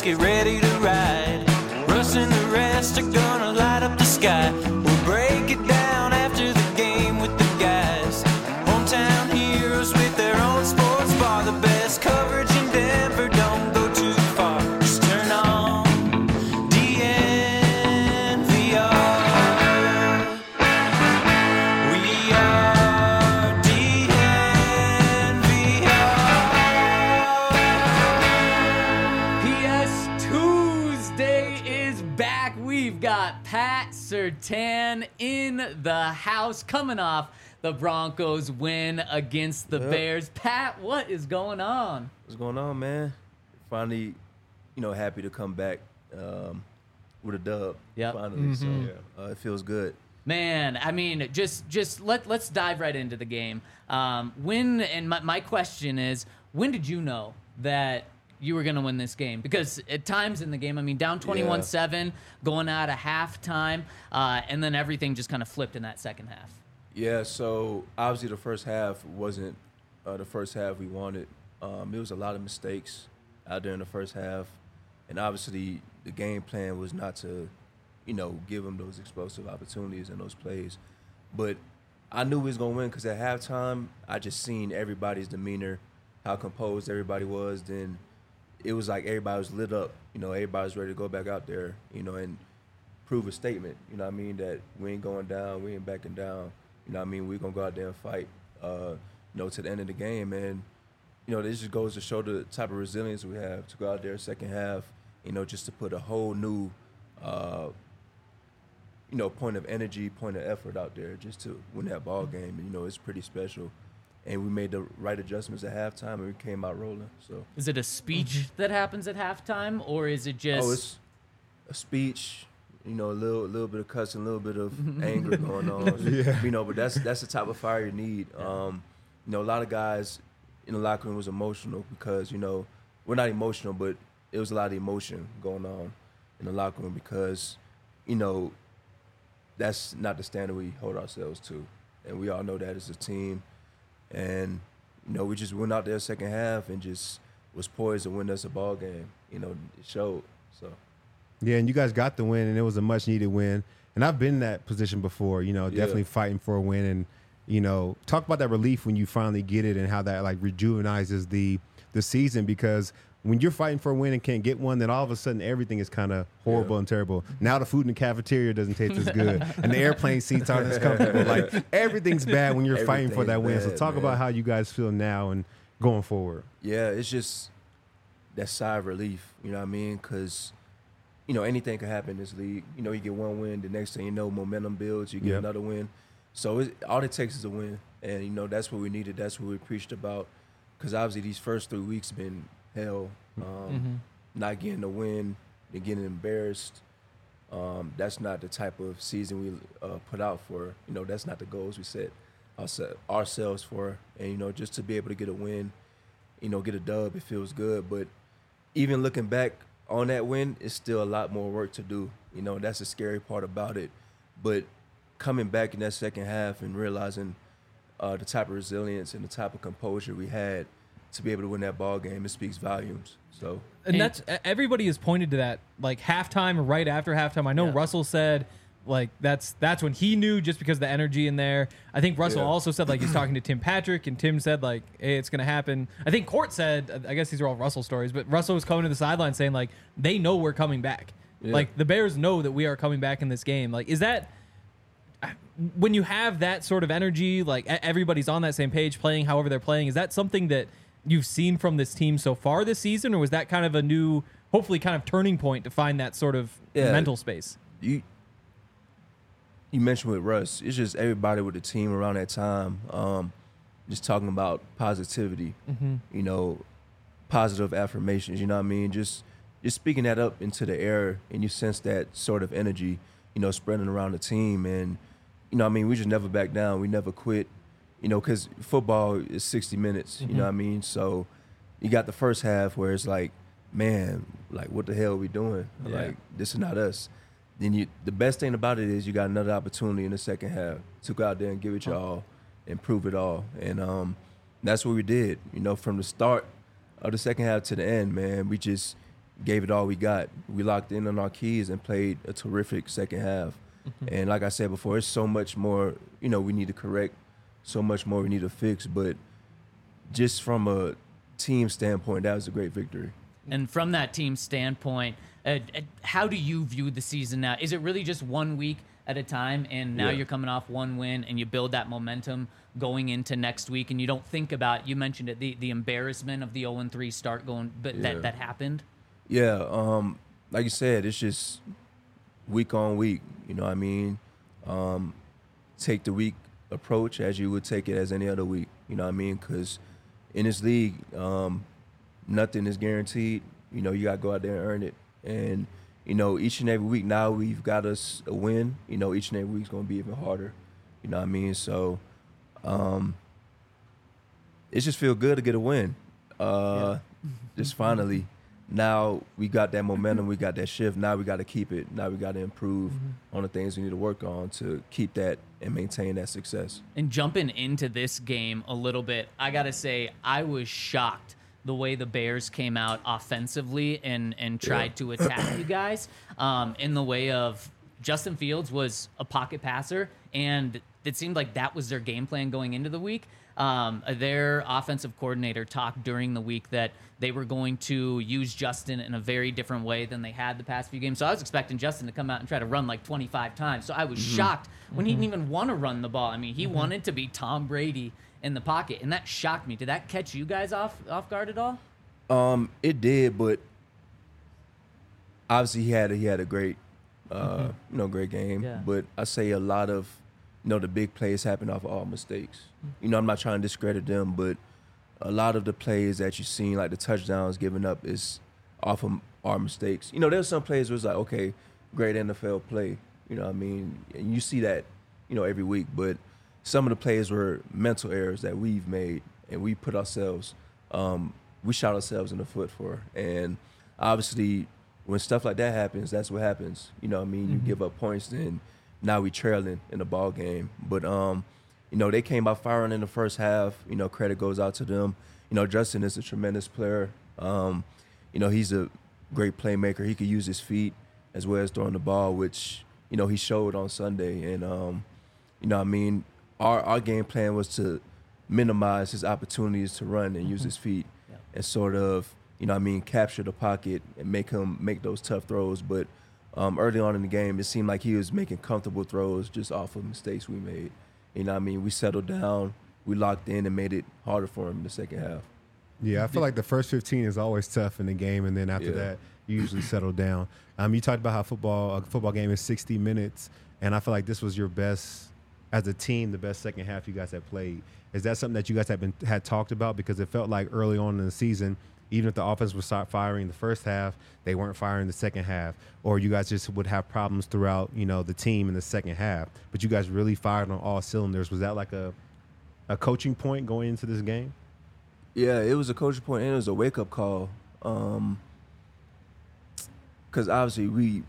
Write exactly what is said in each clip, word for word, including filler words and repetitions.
get ready to ride. Russ and the rest are gonna light up the sky. We'll break it down after the game with the guys. Hometown heroes with their own sports bar. The best coverage in Denver, don't go too far. Just turn on D N V R. We are D N V R. P S Tuesday is back. We've got Pat Surtain in the house coming off the Broncos win against the Yep. Bears. Pat, what is going on? What's going on, man? Finally, you know, happy to come back um, with a dub. Yep. Finally, so uh, it feels good. Man, I mean, just just let let's dive right into the game. Um, when and my, my question is, when did you know that you were going to win this game? Because at times in the game, I mean, down twenty-one seven, going out of halftime, uh, and then everything just kind of flipped in that second half. Yeah, so obviously the first half wasn't uh, the first half we wanted. Um, it was a lot of mistakes out there in the first half, and obviously the game plan was not to, you know, give them those explosive opportunities and those plays. But I knew we was gonna win because at halftime I just seen everybody's demeanor, how composed everybody was. Then it was like everybody was lit up. You know, everybody was ready to go back out there. You know, and prove a statement. You know what I mean, that we ain't going down, we ain't backing down. You know what I mean? We're going to go out there and fight, uh, you know, to the end of the game. And, you know, this just goes to show the type of resilience we have to go out there second half, you know, just to put a whole new, uh, you know, point of energy, point of effort out there just to win that ball game. And, you know, it's pretty special. And we made the right adjustments at halftime, and we came out rolling. So Is it a speech that happens at halftime, or is it just... Oh, it's a speech. You know, a little, a little bit of cussing, a little bit of anger going on. Yeah. You know, but that's that's the type of fire you need. Um, you know, a lot of guys in the locker room was emotional because, you know, we're not emotional, but it was a lot of emotion going on in the locker room because, you know, that's not the standard we hold ourselves to, and we all know that as a team. And you know, we just went out there second half and just was poised to win us a ball game. You know, it showed. So. Yeah, and you guys got the win, and it was a much-needed win. And I've been in that position before, you know, Yeah. definitely fighting for a win. And, you know, talk about that relief when you finally get it and how that, like, rejuvenizes the the season. Because when you're fighting for a win and can't get one, then all of a sudden everything is kind of horrible Yeah. and terrible. Now the food in the cafeteria doesn't taste as good, and the airplane seats aren't as comfortable. Like, everything's bad when you're fighting for that win. So Everything's talk bad, about man. how you guys feel now and going forward. Yeah, it's just that sigh of relief, you know what I mean? Because, you know, anything can happen in this league. You know, you get one win, the next thing you know, momentum builds, you get Yep. another win. So it, all it takes is a win. And, you know, that's what we needed. That's what we preached about. Because obviously these first three weeks have been hell. Um, Not getting a win, and getting embarrassed. Um, that's not the type of season we uh, put out for. You know, that's not the goals we set ourse- ourselves for. And, you know, just to be able to get a win, you know, get a dub, it feels good. But even looking back on that win, it's still a lot more work to do. You know, that's the scary part about it. But coming back in that second half and realizing uh, the type of resilience and the type of composure we had to be able to win that ball game, it speaks volumes. So, And that's everybody has pointed to that, like halftime or right after halftime. I know Yeah. Russell said, like that's that's when he knew just because of the energy in there. I think Russell Yeah. also said like he's talking to Tim Patrick, and Tim said like, hey, it's gonna happen. I think Court said, I guess these are all Russell stories, but Russell was coming to the sideline saying like they know we're coming back. Yeah. Like the Bears know that we are coming back in this game. Like, is that when you have that sort of energy, like e- everybody's on that same page, playing however they're playing? Is that something that you've seen from this team so far this season, or was that kind of a new, hopefully kind of turning point to find that sort of Yeah. mental space? you you mentioned with Russ, it's just everybody with the team around that time, um, just talking about positivity, you know, positive affirmations, you know what I mean? Just just speaking that up into the air, and you sense that sort of energy, you know, spreading around the team. And, you know what I mean, we just never back down. We never quit, you know, because football is sixty minutes, you know what I mean? So you got the first half where it's like, man, like, what the hell are we doing? Yeah. Like, this is not us. Then you, the best thing about it is you got another opportunity in the second half to go out there and give it your all and prove it all. And um, that's what we did. You know, from the start of the second half to the end, man, we just, gave it all we got. We locked in on our keys and played a terrific second half. Mm-hmm. And like I said before, it's so much more, you know, we need to correct, so much more we need to fix. But just from a team standpoint, that was a great victory. And from that team standpoint, uh, uh, how do you view the season now? Is it really just one week at a time, and now Yeah. you're coming off one win, and you build that momentum going into next week, and you don't think about, you mentioned it, the, the embarrassment of the oh and three start going, but Yeah. that, that happened? Yeah, um, like you said, it's just week on week. You know what I mean? Um, take the week approach as you would take it as any other week. You know what I mean? Because in this league, um, nothing is guaranteed. You know, you got to go out there and earn it. And, you know, each and every week now we've got us a win. You know, each and every week's going to be even harder. You know what I mean? So um, it just feel good to get a win. Uh, Yeah. Just finally. Now we got that momentum, we got that shift. Now we got to keep it. Now we got to improve Mm-hmm. on the things we need to work on to keep that and maintain that success. And jumping into this game a little bit, I got to say, I was shocked the way the Bears came out offensively and, and tried to attack you guys um, in the way of Justin Fields was a pocket passer, and it seemed like that was their game plan going into the week. Um, their offensive coordinator talked during the week that they were going to use Justin in a very different way than they had the past few games. So I was expecting Justin to come out and try to run like twenty-five times. So I was Mm-hmm. shocked when he didn't even want to run the ball. I mean, he mm-hmm. wanted to be Tom Brady in the pocket, and that shocked me. Did that catch you guys off off guard at all? Um, it did, but obviously he had a, he had a great, uh, mm-hmm. you know, great game. Yeah. But I say a lot of, you know, the big plays happen off of all mistakes. Mm-hmm. You know, I'm not trying to discredit them, but a lot of the plays that you've seen, like the touchdowns given up, is off of our mistakes. You know, there's some plays where it's like, okay, great N F L play. You know what I mean? And you see that, you know, every week. But some of the plays were mental errors that we've made, and we put ourselves, um, we shot ourselves in the foot for. And obviously, when stuff like that happens, that's what happens. You know what I mean? Mm-hmm. You give up points, then now we trailing in the ball game. But, um, you know, they came out firing in the first half. You know, credit goes out to them. You know, Justin is a tremendous player. Um, you know, he's a great playmaker. He could use his feet as well as throwing the ball, which, you know, he showed on Sunday. And, um, you know what I mean, our, our game plan was to minimize his opportunities to run and use his feet Yeah. and sort of, you know what I mean, capture the pocket and make him make those tough throws. But um, early on in the game, it seemed like he was making comfortable throws just off of mistakes we made. You know what I mean? We settled down, we locked in, and made it harder for him in the second half. Yeah, I feel like the first fifteen is always tough in the game, and then after Yeah. that, you usually settle down. Um, you talked about how football a football game is sixty minutes, and I feel like this was your best, as a team, the best second half you guys have played. Is that something that you guys have been had talked about? Because it felt like early on in the season, even if the offense would start firing the first half, they weren't firing the second half, or you guys just would have problems throughout, you know, the team in the second half. But you guys really fired on all cylinders. Was that like a a coaching point going into this game? Yeah, it was a coaching point and it was a wake-up call. Um, because obviously we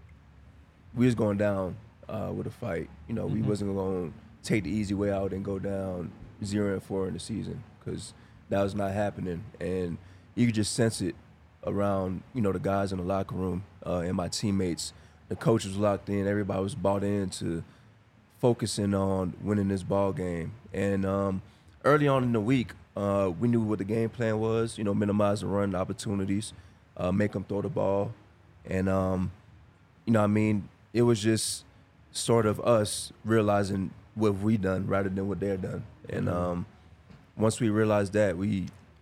we was going down uh, with a fight. You know, we Mhm. wasn't going to take the easy way out and go down zero and four in the season, because that was not happening. And you could just sense it around, you know, the guys in the locker room uh, and my teammates. The coach was locked in. Everybody was bought into focusing on winning this ball game. And um, early on in the week, uh, we knew what the game plan was. You know, minimize the run opportunities, uh, make them throw the ball, and um, you know, what I mean, it was just sort of us realizing what we done rather than what they're done. And um, once we realized that, we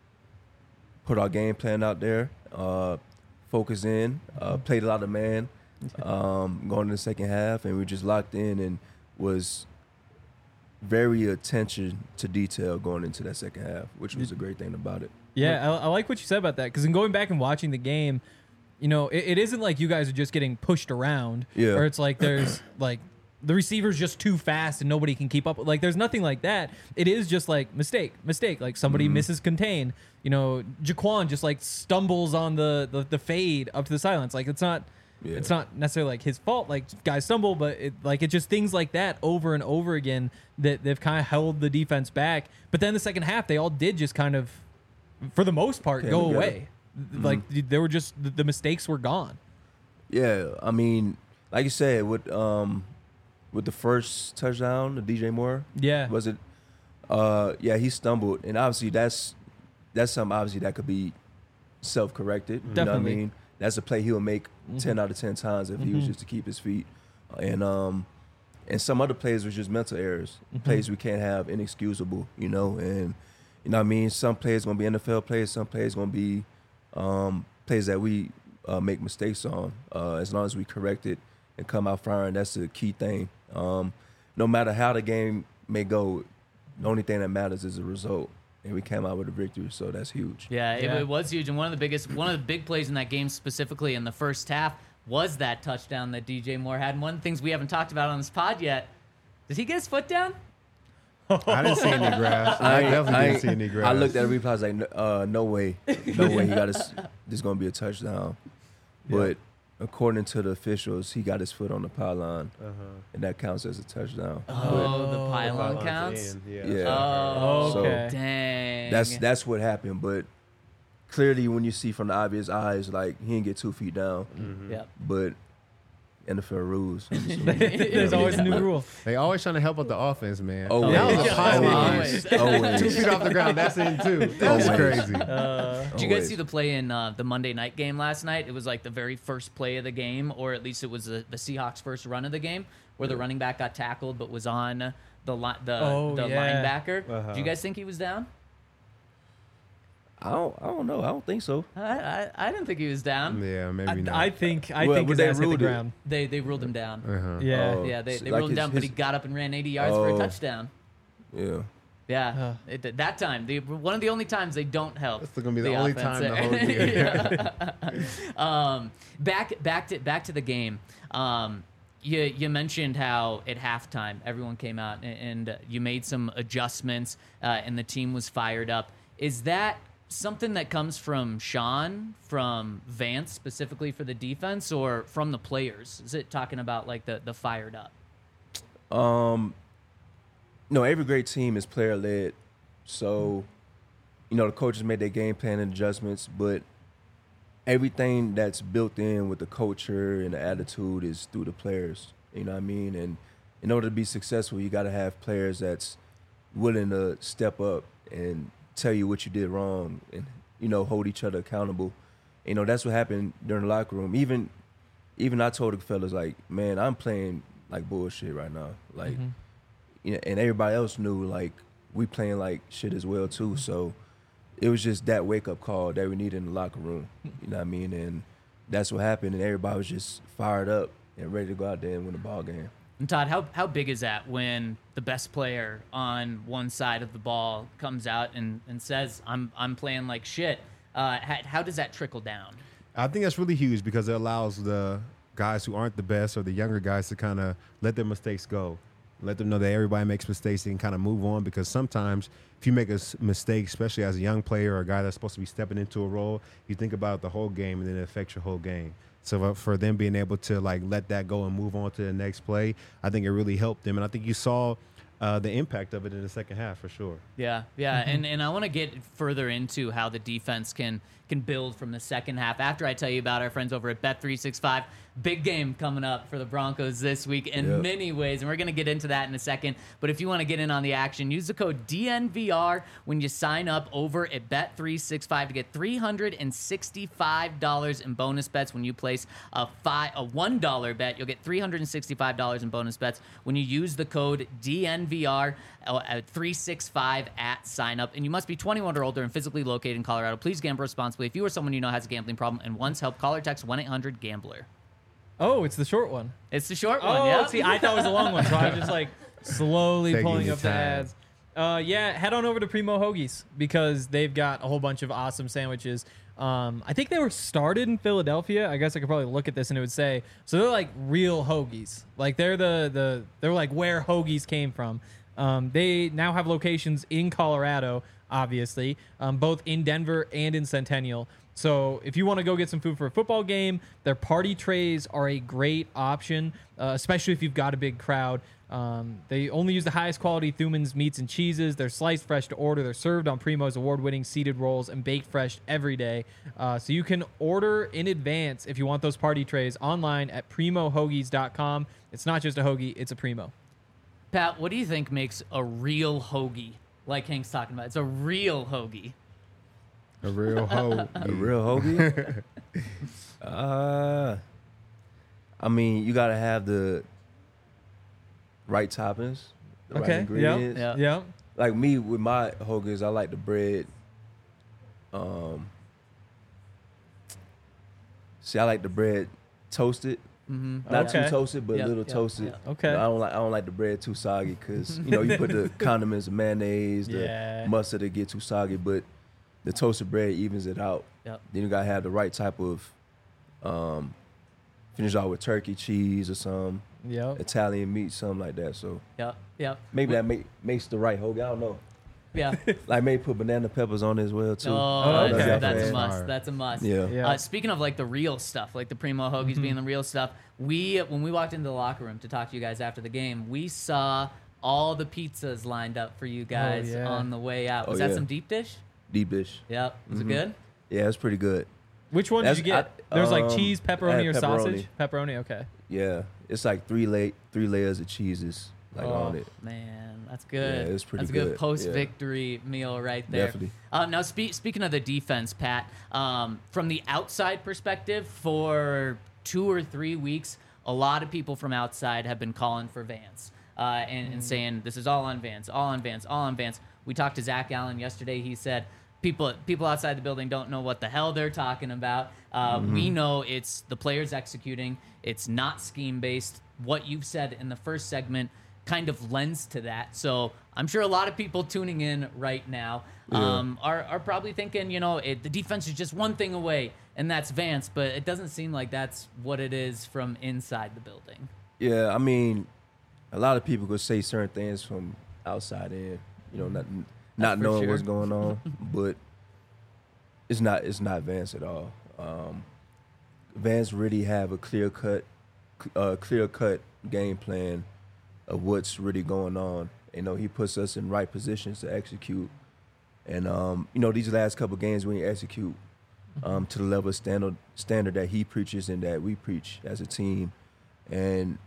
put our game plan out there, uh, focus in, uh, played a lot of man um, going in the second half, and we just locked in and was very attention to detail going into that second half, which was a great thing about it. Yeah, I, I like what you said about that, because in going back and watching the game, you know, it, it isn't like you guys are just getting pushed around, Yeah. or it's like there's like the receiver's just too fast and nobody can keep up. Like there's nothing like that. It is just like mistake, mistake. Like somebody Mm-hmm. misses contain. You know, Jaquan just like stumbles on the the, the fade up to the silence. Like it's not. Yeah. It's not necessarily like his fault, like guys stumble, but it, like it's just things like that over and over again that they've kind of held the defense back. But then the second half, they all did just kind of, for the most part, Came go together. away. Like there were just the, the mistakes were gone. Yeah, I mean, like you said, with um, with the first touchdown, the D J Moore. Yeah. Was it? Uh, yeah, he stumbled, and obviously that's that's something obviously that could be self-corrected. You know what I Definitely. mean? That's a play he'll make ten out of ten times if he was just to keep his feet. And um, and some other plays were just mental errors, plays we can't have, inexcusable. You know, and you know what I mean. Some plays gonna be N F L plays, some plays gonna be um, plays that we uh, make mistakes on. Uh, as long as we correct it and come out firing, that's the key thing. Um, no matter how the game may go, the only thing that matters is the result. And we came out with a victory, so that's huge. Yeah, it, Yeah. it was huge, and one of the biggest, one of the big plays in that game specifically in the first half was that touchdown that D J Moore had. And one of the things we haven't talked about on this pod yet, did he get his foot down? I didn't see any grass. I, ain't- definitely I didn't see ain't- any grass. I looked at the replay. I was like, no, uh, no way, no way. He got his. This gonna be a touchdown. But according to the officials, he got his foot on the pylon, Uh-huh. and that counts as a touchdown. Oh, the pylon Pylon's counts. in, Yeah. Yeah. Oh, So- okay. dang. That's that's what happened. But clearly, when you see from the obvious eyes, like he didn't get two feet down. Yep. But N F L rules. There's always a new rule. They always trying to help out the offense, man. Always. That was a Yeah. pylon. Always. Always. Two feet off the ground. That's in too. That's Always. crazy. Uh, Did you guys Always. see the play in uh, the Monday night game last night? It was like the very first play of the game, or at least it was the, the Seahawks' first run of the game, where the running back got tackled but was on the li- the, Oh, the yeah. linebacker. Uh-huh. Do you guys think he was down? I don't. I don't know. I don't think so. I, I, I didn't think he was down. Yeah, maybe I, not. I think I Well, think would his they ass hit the rule it? ground. They they ruled him down. Uh-huh. Yeah. Oh, Yeah, they, so they like ruled him his- down, but he his- got up and ran eighty yards for a Oh. touchdown. Yeah. Yeah, Uh. it, that time, the, one of the only times they don't help. That's gonna be the only offense time the there. whole year. um, back back to back to the game. Um, you you mentioned how at halftime everyone came out and, and you made some adjustments uh, and the team was fired up. Is that something that comes from Sean, from Vance specifically for the defense, or from the players? Is it talking about like the the fired up? Um, no, every great team is player led. So, you know, the coaches made their game plan and adjustments, but everything that's built in with the culture and the attitude is through the players. You know what I mean? And in order to be successful, you got to have players that's willing to step up and tell you what you did wrong and, you know, hold each other accountable. You know, that's what happened during the locker room. Even, even I told the fellas, like, man, I'm playing like bullshit right now. Like, you know, and everybody else knew, like, we playing like shit as well too. So it was just that wake up call that we needed in the locker room. You know what I mean? And that's what happened. And everybody was just fired up and ready to go out there and win the ball game. And Todd, how how big is that when the best player on one side of the ball comes out and, and says, "I'm I'm playing like shit"? Uh, how, how does that trickle down? I think that's really huge because it allows the guys who aren't the best or the younger guys to kind of let their mistakes go. Let them know that everybody makes mistakes and kind of move on, because sometimes if you make a s- mistake, especially as a young player or a guy that's supposed to be stepping into a role, you think about the whole game and then it affects your whole game. So uh, for them being able to like let that go and move on to the next play, I think it really helped them. And I think you saw uh, the impact of it in the second half for sure. Yeah, yeah, and and I want to get further into how the defense can can build from the second half after I tell you about our friends over at Bet three sixty-five. Big game coming up for the Broncos this week in Yep. many ways, and we're going to get into that in a second. But if you want to get in on the action, use the code D N V R when you sign up over at Bet three sixty-five to get three hundred sixty-five dollars in bonus bets when you place a five a one dollar bet. You'll get three hundred sixty-five dollars in bonus bets when you use the code D N V R at three sixty-five at sign up. And you must be twenty-one or older and physically located in Colorado. Please gamble responsibly. If you or someone you know has a gambling problem and wants help, call or text one eight hundred gambler. Oh, it's the short one. It's the short one, Oh, yeah. see, I thought it was a long one, so I was just like slowly Taking pulling your up the time. ads. Uh, yeah, head on over to Primo Hoagies because they've got a whole bunch of awesome sandwiches. Um, I think they were started in Philadelphia. I guess I could probably look at this and it would say so. They're like real hoagies. Like they're the the they're like where hoagies came from. Um, they now have locations in Colorado, obviously, um, both in Denver and in Centennial. So if you want to go get some food for a football game, their party trays are a great option, uh, especially if you've got a big crowd. Um, they only use the highest quality Thuman's meats and cheeses. They're sliced fresh to order. They're served on Primo's award-winning seeded rolls and baked fresh every day. Uh, so you can order in advance if you want those party trays online at primo hoagies dot com. It's not just a hoagie, it's a Primo. Pat, what do you think makes a real hoagie? Like Hank's talking about, it's a real hoagie. A real hoe. A real hoagie? uh, I mean, you got to have the right toppings, the right Okay. ingredients. Yep. Yeah. Yep. Like me with my hoagies, I like the bread. Um, see, I like the bread toasted, Mm-hmm. not Okay. too toasted, but Yeah, a little yeah, toasted. yeah. Okay. I don't like I don't like the bread too soggy because you know you put the condiments, the mayonnaise, the Yeah. mustard to get too soggy, but the toasted bread evens it out. Yep. Then you gotta have the right type of um, finish out with turkey, cheese, or some Yep. Italian meat, something like that. So Yep. Yep. maybe that make, makes the right hoagie. I don't know. Yeah. Like maybe put banana peppers on it as well too. Oh, okay. that's, that's a fan. must. Fire. That's a must. Yeah. Yeah. Uh, speaking of like the real stuff, like the Primo hoagies Mm-hmm. being the real stuff, we when we walked into the locker room to talk to you guys after the game, we saw all the pizzas lined up for you guys yeah. on the way out. Oh, Was that yeah. some deep dish? Deep dish. Yep. Was Mhm. it good? Yeah, it's pretty good. Which one did That's- you get? I- There was like um, cheese, I pepperoni, had or sausage? Pepperoni, okay. Yeah, it's like three la- three layers of cheeses like oh, on it. man, that's good. Yeah, it's pretty That's a good good. post-victory meal right there. Definitely. Um, now, spe- speaking of the defense, Pat, um, from the outside perspective, for two or three weeks, a lot of people from outside have been calling for Vance uh, and, and saying this is all on Vance, all on Vance, all on Vance. We talked to Zach Allen yesterday. He said people people outside the building don't know what the hell they're talking about. Uh, We know it's the players executing. It's not scheme based. What you've said in the first segment kind of lends to that. So I'm sure a lot of people tuning in right now um, are, are probably thinking, you know, it, the defense is just one thing away, and that's Vance. But it doesn't seem like that's what it is from inside the building. Yeah, I mean, a lot of people could say certain things from outside in, you know, not not for knowing sure. what's going on, but it's not it's not Vance at all. Um, Vance really have a clear cut, uh, clear cut game plan of what's really going on. You know, he puts us in right positions to execute, and um, you know, these last couple games we execute um, to the level of standard standard that he preaches and that we preach as a team, and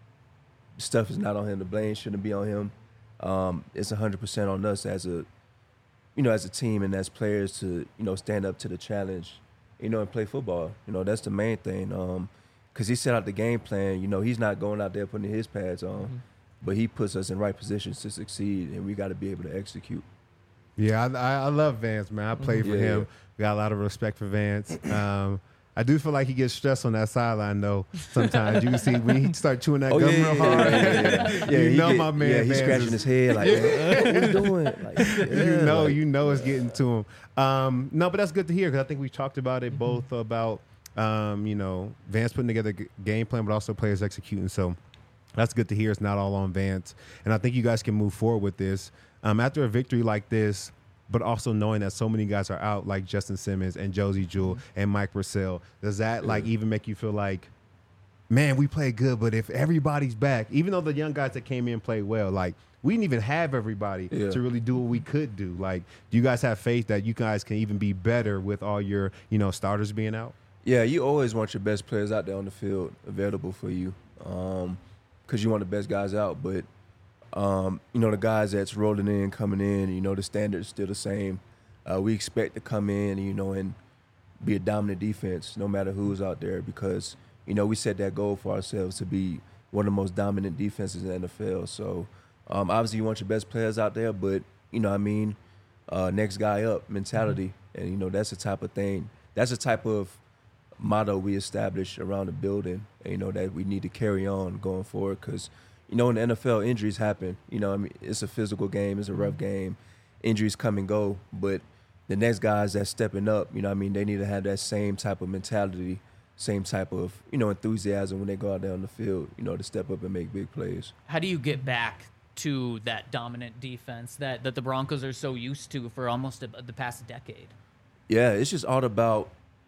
stuff is not on him. The blame shouldn't be on him. Um, it's one hundred percent on us as a, you know, as a team and as players to, you know, stand up to the challenge, you know, and play football. You know, that's the main thing. Um, because he set out the game plan. You know, he's not going out there putting his pads on, Mm-hmm. but he puts us in right positions to succeed, and we got to be able to execute. Yeah, I, I I love Vance, man. I played for Yeah. him. We got a lot of respect for Vance. Um, I do feel like he gets stressed on that sideline, though. Sometimes you can see when he start chewing that Oh, gum yeah, real yeah, hard. yeah, yeah, yeah. you he know get- my man. Yeah, he's Vance scratching is- his head like, "Man, what you doing?" Like, you yeah, know, like- you know it's getting to him. Um, no, but that's good to hear because I think we talked about it both about, um, you know, Vance putting together a g- game plan, but also players executing. So that's good to hear. It's not all on Vance. And I think you guys can move forward with this. Um, after a victory like this, but also knowing that so many guys are out, like Justin Simmons and Josie Jewell and Mike Purcell, does that like even make you feel like, man, we played good, but if everybody's back, even though the young guys that came in played well, like we didn't even have everybody Yeah. to really do what we could do. Like, do you guys have faith that you guys can even be better with all your, you know, starters being out? Yeah, you always want your best players out there on the field available for you, um, because you want the best guys out. But um, you know, the guys that's rolling in, coming in, you know, the standard's still the same. Uh, we expect to come in, you know, and be a dominant defense, no matter who's out there, because you know we set that goal for ourselves to be one of the most dominant defenses in the N F L. So um, obviously, you want your best players out there, but you know, what I mean, uh, next guy up mentality, and you know, that's the type of thing. That's the type of motto we establish around the building, and, you know, that we need to carry on going forward because, you know, in the N F L, injuries happen. You know, I mean, it's a physical game. It's a rough game. Injuries come and go. But the next guys that's stepping up, you know what I mean, they need to have that same type of mentality, same type of, you know, enthusiasm when they go out there on the field, you know, to step up and make big plays. How do you get back to that dominant defense that, that the Broncos are so used to for almost a, the past decade? Yeah, it's just all about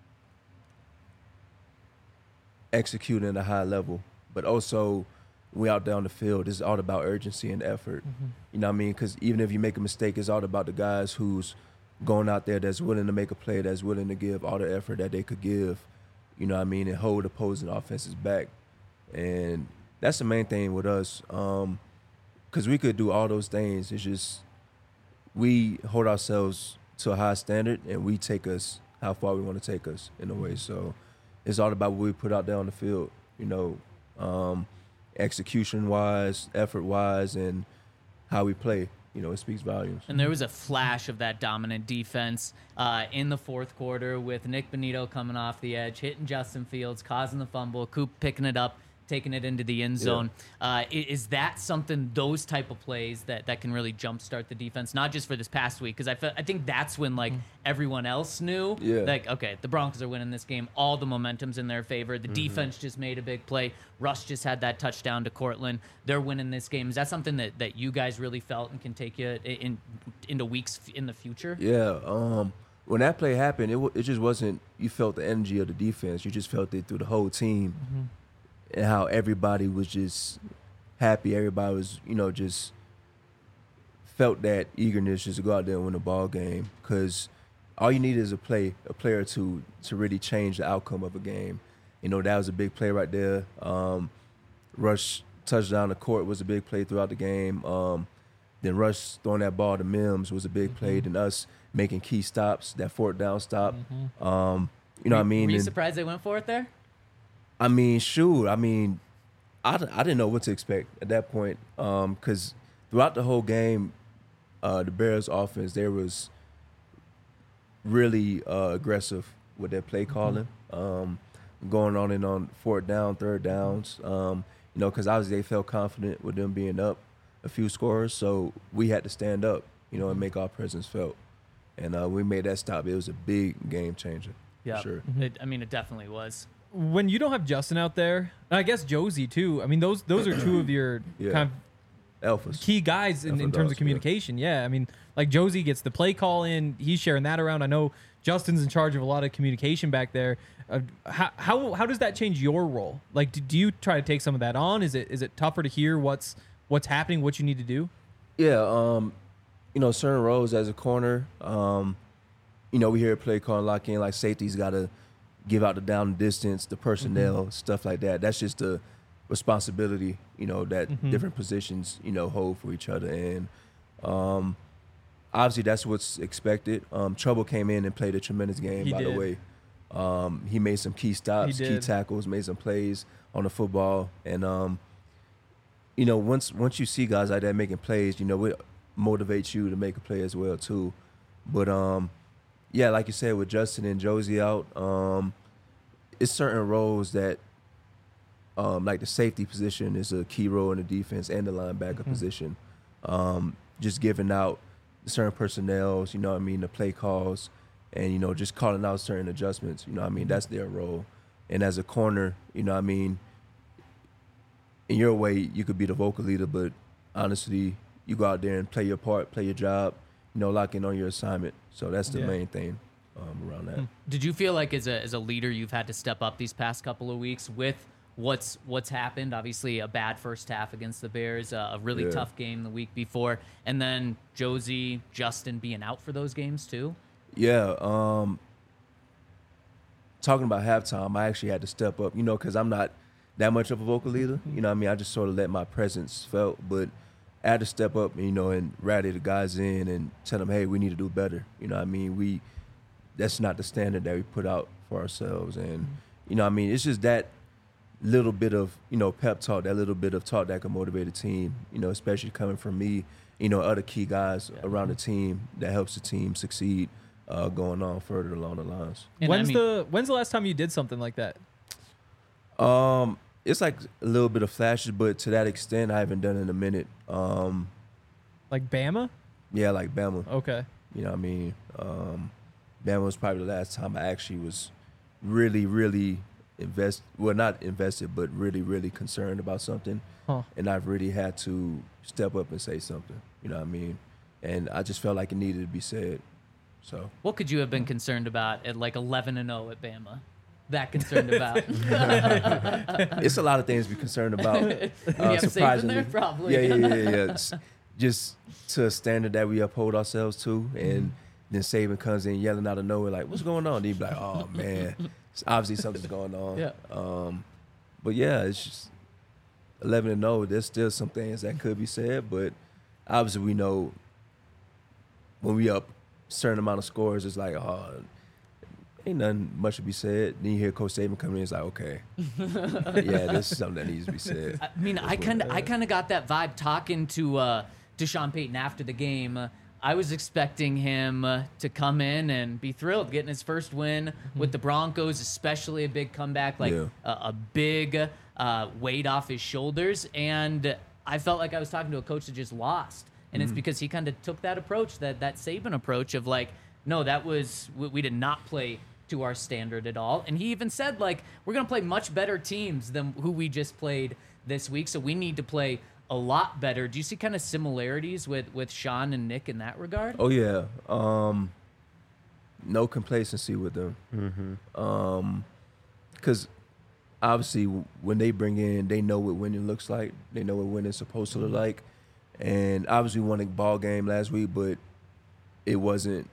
executing at a high level, but also we out there on the field, it's all about urgency and effort. Mm-hmm. You know what I mean? Because even if you make a mistake, it's all about the guys who's going out there that's willing to make a play, that's willing to give all the effort that they could give, you know what I mean, and hold opposing offenses back. And that's the main thing with us, because um, we could do all those things. It's just we hold ourselves to a high standard, and we take us how far we want to take us in a way. So it's all about what we put out there on the field, you know, um, execution-wise, effort-wise, and how we play. You know, it speaks volumes. And there was a flash of that dominant defense uh, in the fourth quarter with Nick Bonito coming off the edge, hitting Justin Fields, causing the fumble, Coop picking it up, taking it into the end zone. Yeah. Uh, is that something, those type of plays that, that can really jumpstart the defense, not just for this past week? Because I, fe- I think that's when, like, mm. everyone else knew, yeah. like, okay, the Broncos are winning this game. All the momentum's in their favor. The mm-hmm. defense just made a big play. Russ just had that touchdown to Cortland. They're winning this game. Is that something that, that you guys really felt and can take you in, into weeks in the future? Yeah. Um, when that play happened, it, w- it just wasn't, you felt the energy of the defense. You just felt it through the whole team. Mm-hmm. And how everybody was just happy. Everybody was, you know, just felt that eagerness just to go out there and win a ball game. Because all you need is a play, a player to to really change the outcome of a game. You know, that was a big play right there. Um, Rush touchdown the court was a big play throughout the game. Um, then Rush throwing that ball to Mims was a big mm-hmm. play. Then us making key stops, that fourth down stop. Mm-hmm. Um, you know were, what I mean? Were you and, surprised they went for it there? I mean, shoot. I mean, I, I didn't know what to expect at that point because um, throughout the whole game, uh, the Bears' offense, there was really uh, aggressive with their play calling, mm-hmm. um, going on and on fourth down, third downs, um, you know, because obviously they felt confident with them being up a few scores, so we had to stand up, you know, and make our presence felt. And uh, we made that stop. It was a big game changer, yeah. for sure. Mm-hmm. It, I mean, it definitely was. When you don't have Justin out there, and I guess Josie too. I mean, those those are two of your yeah. kind of Alphas. key guys in, Alpha in terms dogs, of communication. Yeah. yeah, I mean, like Josie gets the play call in. He's sharing that around. I know Justin's in charge of a lot of communication back there. Uh, how how how does that change your role? Like, do, do you try to take some of that on? Is it is it tougher to hear what's what's happening, what you need to do? Yeah, um, you know, certain roles as a corner. Um, you know, we hear play call and lock in, like safety's got to give out the down distance, the personnel, mm-hmm. stuff like that. That's just the responsibility, you know, that mm-hmm. different positions, you know, hold for each other. And um, obviously that's what's expected. Um, Trouble came in and played a tremendous game, he by did. the way. Um, he made some key stops, key tackles, made some plays on the football. And, um, you know, once once you see guys like that making plays, you know, it motivates you to make a play as well, too. But, um, yeah, like you said, with Justin and Josie out, um, it's certain roles that, um, like the safety position is a key role in the defense and the linebacker mm-hmm. position. Um, just giving out certain personnels, you know what I mean, the play calls, and, you know, just calling out certain adjustments, you know what I mean, that's their role. And as a corner, you know what I mean, in your way, you could be the vocal leader, but honestly, you go out there and play your part, play your job, you know, lock in on your assignment. So that's the yeah. main thing um, around that. Did you feel like as a as a leader you've had to step up these past couple of weeks with what's what's happened? Obviously a bad first half against the Bears, uh, a really yeah. tough game the week before, and then Josie, Justin being out for those games too? Yeah. Um, talking about halftime, I actually had to step up, you know, because I'm not that much of a vocal leader. You know what I mean? I just sort of let my presence felt, but I had to step up, you know, and rally the guys in and tell them, hey, we need to do better. You know what I mean? We that's not the standard that we put out for ourselves. And, mm-hmm. you know what I mean? It's just that little bit of, you know, pep talk, that little bit of talk that can motivate a team, you know, especially coming from me, you know, other key guys yeah. around the team that helps the team succeed uh, going on further along the lines. And when's I mean, the when's the last time you did something like that? Um, it's like a little bit of flashes, but to that extent, I haven't done it in a minute. Um, like Bama? Yeah, like Bama. Okay. You know what I mean? Um, Bama was probably the last time I actually was really, really invest, well, not invested, but really, really concerned about something. Huh. And I've really had to step up and say something. You know what I mean? And I just felt like it needed to be said. So What could you have been concerned about at like eleven and oh at Bama? That concerned about? it's a lot of things to be concerned about. you Uh, have Saban surprisingly, there? Probably. yeah, yeah, yeah, yeah. yeah. S- Just to a standard that we uphold ourselves to, and then Saban comes in yelling out of nowhere like, "What's going on?" And he'd be like, "Oh man, it's obviously something's going on." Yeah. Um, but yeah, it's just eleven and oh. There's still some things that could be said, but obviously we know when we up a certain amount of scores, it's like, oh, ain't nothing much to be said. Then you hear Coach Saban come in, it's like, okay, yeah, this is something that needs to be said. I mean, I kind of, I kind of got that vibe talking to uh, to Sean Payton after the game. Uh, I was expecting him uh, to come in and be thrilled, getting his first win with the Broncos, especially a big comeback, like Yeah. a, a big uh, weight off his shoulders. And I felt like I was talking to a coach that just lost, and it's because he kind of took that approach, that that Saban approach of like, no, that was we, we did not play to our standard at all. And he even said, like, we're going to play much better teams than who we just played this week, so we need to play a lot better. Do you see kind of similarities with, with Sean and Nick in that regard? Oh yeah, um, no complacency with them. Mm-hmm. Um, because obviously when they bring in, they know what winning looks like. They know what winning's supposed to look like. And obviously we won a ball game last week, but it wasn't.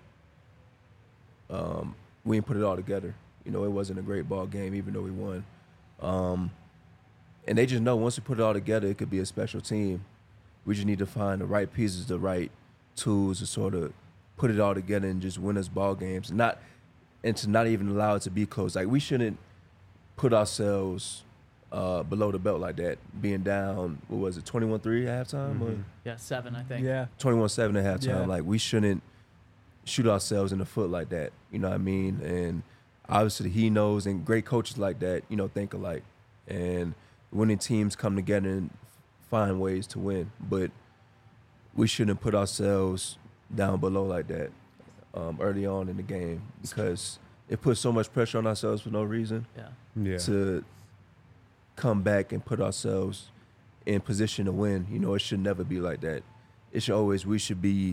Um, we didn't put it all together. You know, it wasn't a great ball game, even though we won. Um, and they just know once we put it all together, it could be a special team. We just need to find the right pieces, the right tools to sort of put it all together and just win us ball games. Not and to not even allow it to be close. Like, we shouldn't put ourselves uh, below the belt like that, being down, what was it, twenty-one three at halftime? Or Yeah, seven, I think. Yeah. twenty-one seven at halftime. Yeah. Like, we shouldn't shoot ourselves in the foot like that. You know what I mean? And obviously he knows, and great coaches like that, you know, think alike. And winning teams come together and find ways to win. But we shouldn't put ourselves down below like that um, early on in the game, because it puts so much pressure on ourselves for no reason Yeah. Yeah. to come back and put ourselves in position to win. You know, it should never be like that. It should always, we should be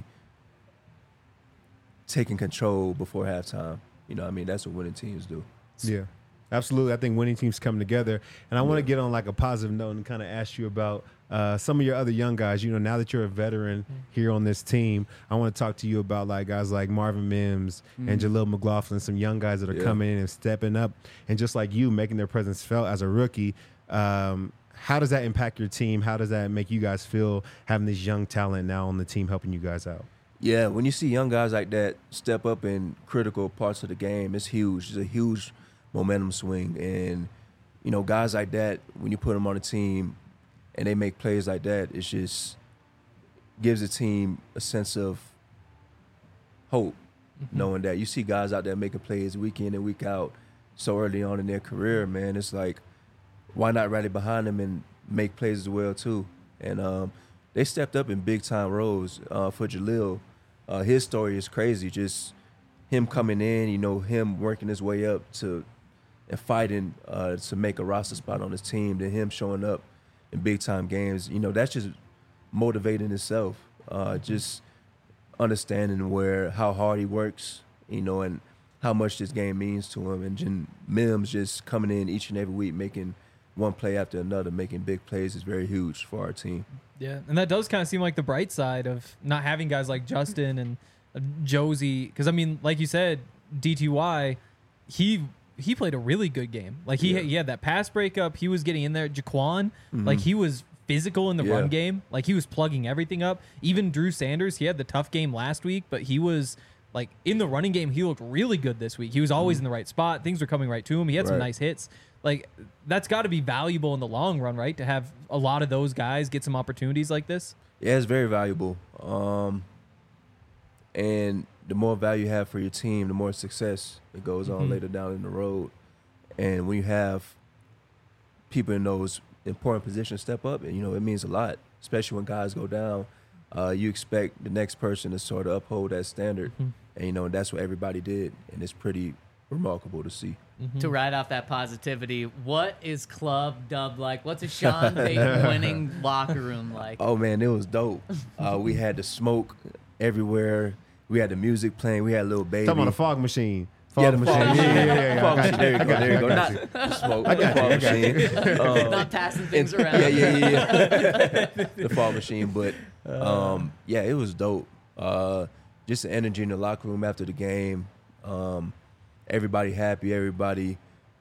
taking control before halftime. You know what I mean? That's what winning teams do. Yeah, absolutely. I think winning teams come together. And I want to Yeah. get on like a positive note and kind of ask you about uh, some of your other young guys. You know, now that you're a veteran here on this team, I want to talk to you about like guys like Marvin Mims and Jaleel McLaughlin, some young guys that are Yeah. coming in and stepping up, and just like you, making their presence felt as a rookie. Um, how does that impact your team? How does that make you guys feel having this young talent now on the team helping you guys out? Yeah, when you see young guys like that step up in critical parts of the game, it's huge. It's a huge momentum swing. And, you know, guys like that, when you put them on a team and they make plays like that, it just gives the team a sense of hope, knowing that you see guys out there making plays week in and week out so early on in their career, man. It's like, why not rally behind them and make plays as well, too? And um, they stepped up in big-time roles uh, for Jaleel. Uh, his story is crazy. Just him coming in, you know, him working his way up to and fighting uh, to make a roster spot on his team, then him showing up in big-time games. You know, that's just motivating itself. Uh, just understanding where how hard he works, you know, and how much this game means to him. And Jen, Mims just coming in each and every week, making one play after another, making big plays is very huge for our team. Yeah, and that does kind of seem like the bright side of not having guys like Justin and uh, Josie. Because I mean, like you said, D T Y, he he played a really good game. Like he Yeah. he had that pass breakup. He was getting in there. Jaquan, like he was physical in the Yeah. run game. Like he was plugging everything up. Even Drew Sanders, he had the tough game last week, but he was like in the running game. He looked really good this week. He was always in the right spot. Things were coming right to him. He had some Right. nice hits. Like that's got to be valuable in the long run, right? To have a lot of those guys get some opportunities like this. Yeah, it's very valuable. Um, and the more value you have for your team, the more success it goes on Mhm. later down in the road. And when you have people in those important positions step up, and you know, it means a lot, especially when guys go down. Uh, you expect the next person to sort of uphold that standard. Mhm. And, you know, that's what everybody did. And it's pretty remarkable to see. To ride off that positivity, what is Club Dub like? What's a Sean Payton winning locker room like? Oh man, it was dope. Uh, we had the smoke everywhere. We had the music playing. We had Lil Baby. Talking about a fog machine. Fog Yeah, the machine. fog Yeah, machine. yeah, yeah, yeah. Fog I got machine. There you I go. got There you go. I got Not the smoke. I The got you, fog I got you. machine. Um, Not passing things around. Yeah, yeah, yeah, yeah. The fog machine, but um, yeah, it was dope. Uh, just the energy in the locker room after the game. Um, everybody happy. Everybody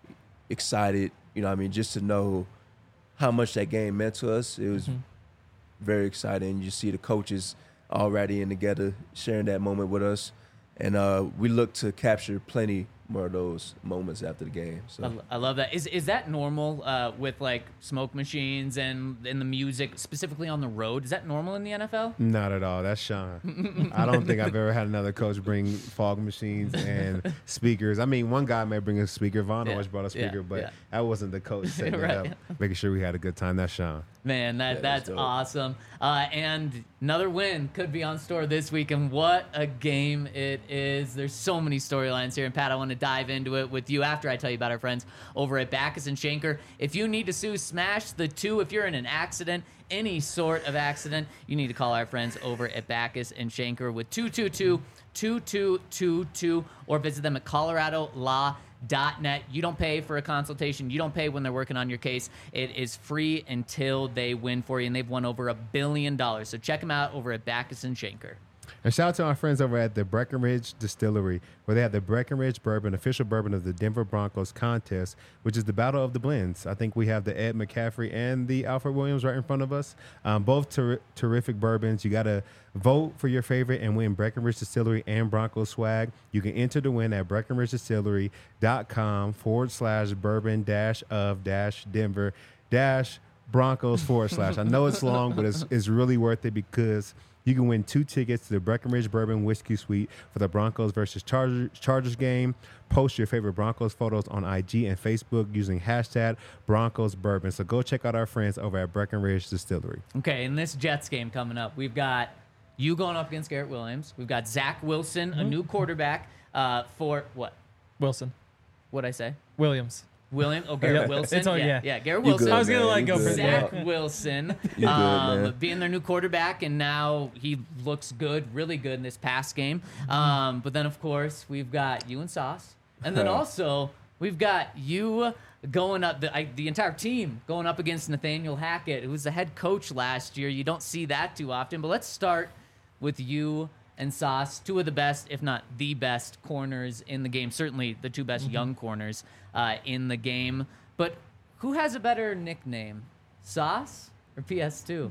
excited. You know what I mean? Just to know how much that game meant to us. It was Mm-hmm. very exciting. You see the coaches already in together, sharing that moment with us. And uh, we look to capture plenty more of those moments after the game. So. I, I love that. Is is that normal uh, with like smoke machines and and the music specifically on the road? Is that normal in the N F L? Not at all. That's Sean. I don't think I've ever had another coach bring fog machines and speakers. I mean, one guy may bring a speaker. Vaughn Yeah, always brought a yeah, speaker, but yeah. that wasn't the coach setting Right. it up, making sure we had a good time. That's Sean. Man, that Yeah, that's dope. awesome. Uh, and another win could be on store this week. And what a game it is. There's so many storylines here. And Pat, I want to dive into it with you after I tell you about our friends over at Backus and Schenker. If you need to sue, smash the two. If you're in an accident, any sort of accident, you need to call our friends over at Backus and Schenker with two two two, two two two two or visit them at Colorado Law. Dot net. You don't pay for a consultation. You don't pay when they're working on your case. It is free until they win for you, and they've won over a billion dollars. So check them out over at Backus and Schenker. And shout out to our friends over at the Breckenridge Distillery, where they have the Breckenridge Bourbon, official bourbon of the Denver Broncos contest, which is the Battle of the Blends. I think we have the Ed McCaffrey and the Alfred Williams right in front of us. Um, both ter- terrific bourbons. You got to vote for your favorite and win Breckenridge Distillery and Broncos swag. You can enter to win at breckenridgedistillery.com forward slash bourbon dash of dash Denver dash Broncos forward slash. I know it's long, but it's, it's really worth it because you can win two tickets to the Breckenridge Bourbon Whiskey Suite for the Broncos versus Chargers, Chargers game. Post your favorite Broncos photos on I G and Facebook using hashtag Broncos Bourbon. So go check out our friends over at Breckenridge Distillery. Okay, in this Jets game coming up, we've got you going up against Garrett Williams. We've got Zach Wilson, a new quarterback uh, for what? Wilson. What'd I say? Williams. William? Oh, Garrett Yep. Wilson? It's all- yeah, yeah. yeah, Garrett You Wilson. good, I was gonna man. like You go for good. Zach that. Wilson You good, um, man. being their new quarterback, and now he looks good, really good in this past game. Um, but then, of course, we've got you and Sauce. And then also, we've got you going up, the, I, the entire team going up against Nathaniel Hackett, who was the head coach last year. You don't see that too often. But let's start with you and Sauce, two of the best, if not the best, corners in the game. Certainly the two best young corners uh, in the game. But who has a better nickname, Sauce or P S two?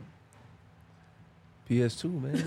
P S two, man.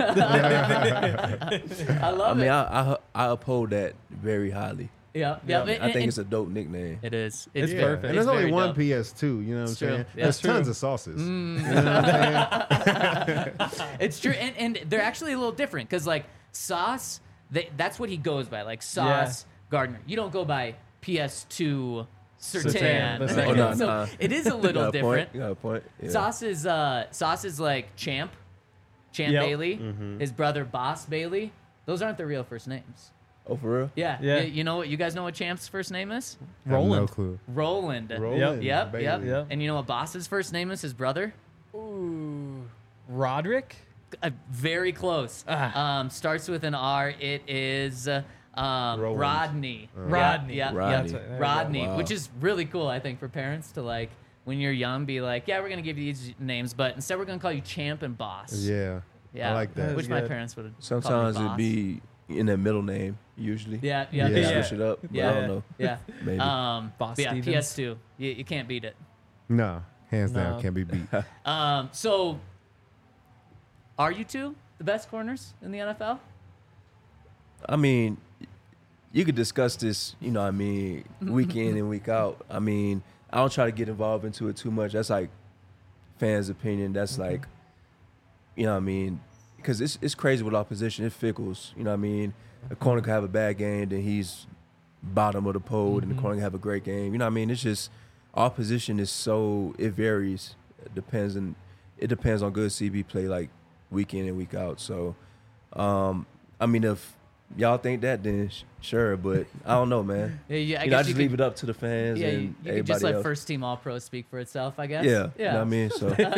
I love I mean, it. I, I I uphold that very highly. yeah, yeah. I and- think and- it's a dope nickname. it is. It's Yeah. perfect. And there's It's only very one dope. P S two, you know what I'm It's true. saying? Yeah. There's It's true. tons of sauces. Mm. You know what I'm saying? It's true, and, and they're actually a little different because like Sauce, they, that's what he goes by, like Sauce Gardner. You don't go by P S two Sertan. Sertan, the second. Oh, no, so no. it is a You little got a different. Point. You got a point. Yeah. Sauce is uh, Sauce is like Champ, Champ Yep. Bailey. Mm-hmm. His brother Boss Bailey. Those aren't their real first names. Oh, for real? Yeah, Yeah. You, you know what? You guys know what Champ's first name is? I have no Roland. clue. Roland. Roland, Yep. baby. Yep. Yep. And you know what Boss's first name is? His brother. Ooh. Roderick? Uh, very close. Ah. Um, starts with an R. It is uh, um, Roland. Rodney. Rodney. Yeah, yeah, Rodney. yeah. There you go. Rodney, Wow. which is really cool, I think, for parents to like when you're young, be like, yeah, we're gonna give you these names, but instead we're gonna call you Champ and Boss. Yeah. Yeah. I like that. Which That's my good. parents would have. Sometimes it'd be in their middle name, usually. Yeah, yeah, Yeah. yeah. Switch it up. But Yeah. I don't know. Yeah. Maybe. Um, Boss but yeah, Stevens. P S two. You, you can't beat it. No, hands down, No. can't be beat. Um, so, are you two the best corners in the N F L? I mean, you could discuss this, you know what I mean, week in and week out. I mean, I don't try to get involved into it too much. That's like fans' opinion. That's like, you know what I mean? Because it's, it's crazy with our position. It fickles. You know what I mean? A corner could have a bad game, then he's bottom of the pole, and the corner can have a great game. You know what I mean? It's just our position is so, it varies. It depends on, it depends on good C B play like week in and week out. So, um, I mean, if y'all think that, then sh- sure. But I don't know, man. Yeah, yeah, I you know, I guess just you leave could- it up to the fans Yeah, and you, you could everybody just let else. first team All Pro speak for itself, I guess. Yeah, yeah. you know what I mean.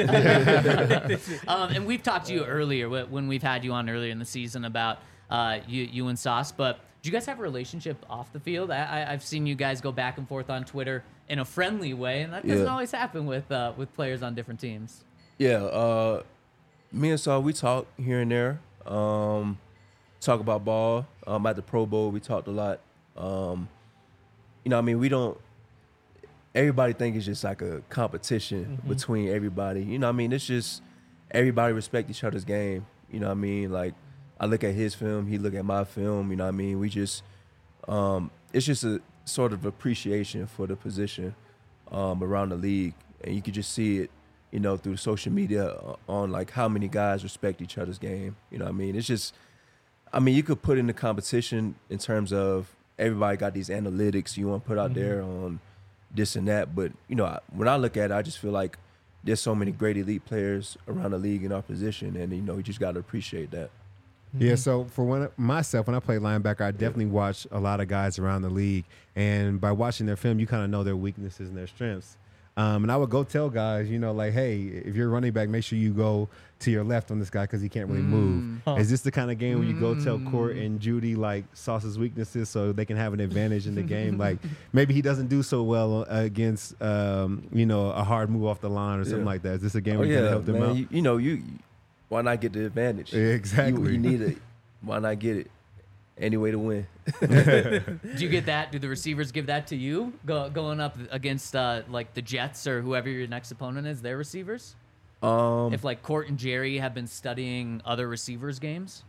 So um, and we've talked to you earlier wh- when we've had you on earlier in the season about uh, you, you and Sauce. But do you guys have a relationship off the field? I, I, I've seen you guys go back and forth on Twitter in a friendly way, and that doesn't Yeah. always happen with uh, with players on different teams. yeah, uh, me and Saul, we talk here and there. Um, talk about ball. Um, at the Pro Bowl, we talked a lot. Um, you know, what I mean, we don't. Everybody think it's just like a competition Mm-hmm. between everybody. You know, what I mean, it's just everybody respect each other's game. You know, what I mean, like I look at his film, he look at my film. You know, what I mean, we just. Um, it's just a sort of appreciation for the position um, around the league, and you can just see it. You know, through social media on like how many guys respect each other's game. You know what I mean? It's just, I mean, you could put in the competition in terms of everybody got these analytics you want to put out Mm-hmm. there on this and that. But, you know, I- when I look at it, I just feel like there's so many great elite players around the league in our position. And, you know, you just got to appreciate that. Yeah, so for when myself, when I play linebacker, I definitely watch a lot of guys around the league, and by watching their film, you kind of know their weaknesses and their strengths. Um, and I would go tell guys, you know, like, hey, if you're a running back, make sure you go to your left on this guy because he can't really move. Huh. Is this the kind of game where you go tell Court and Judy like Sauce's weaknesses so they can have an advantage in the game? Like maybe he doesn't do so well against, um, you know, a hard move off the line or something Yeah. like that. Is this a game Oh, where you can yeah, help them man. out? You, you know, you why not get the advantage? Yeah, exactly. You, you need it. Why not get it? Any way to win. Do you get that? Do the receivers give that to you go, going up against uh, like the Jets or whoever your next opponent is? Their receivers? Um, If like Court and Jerry have been studying other receivers' games,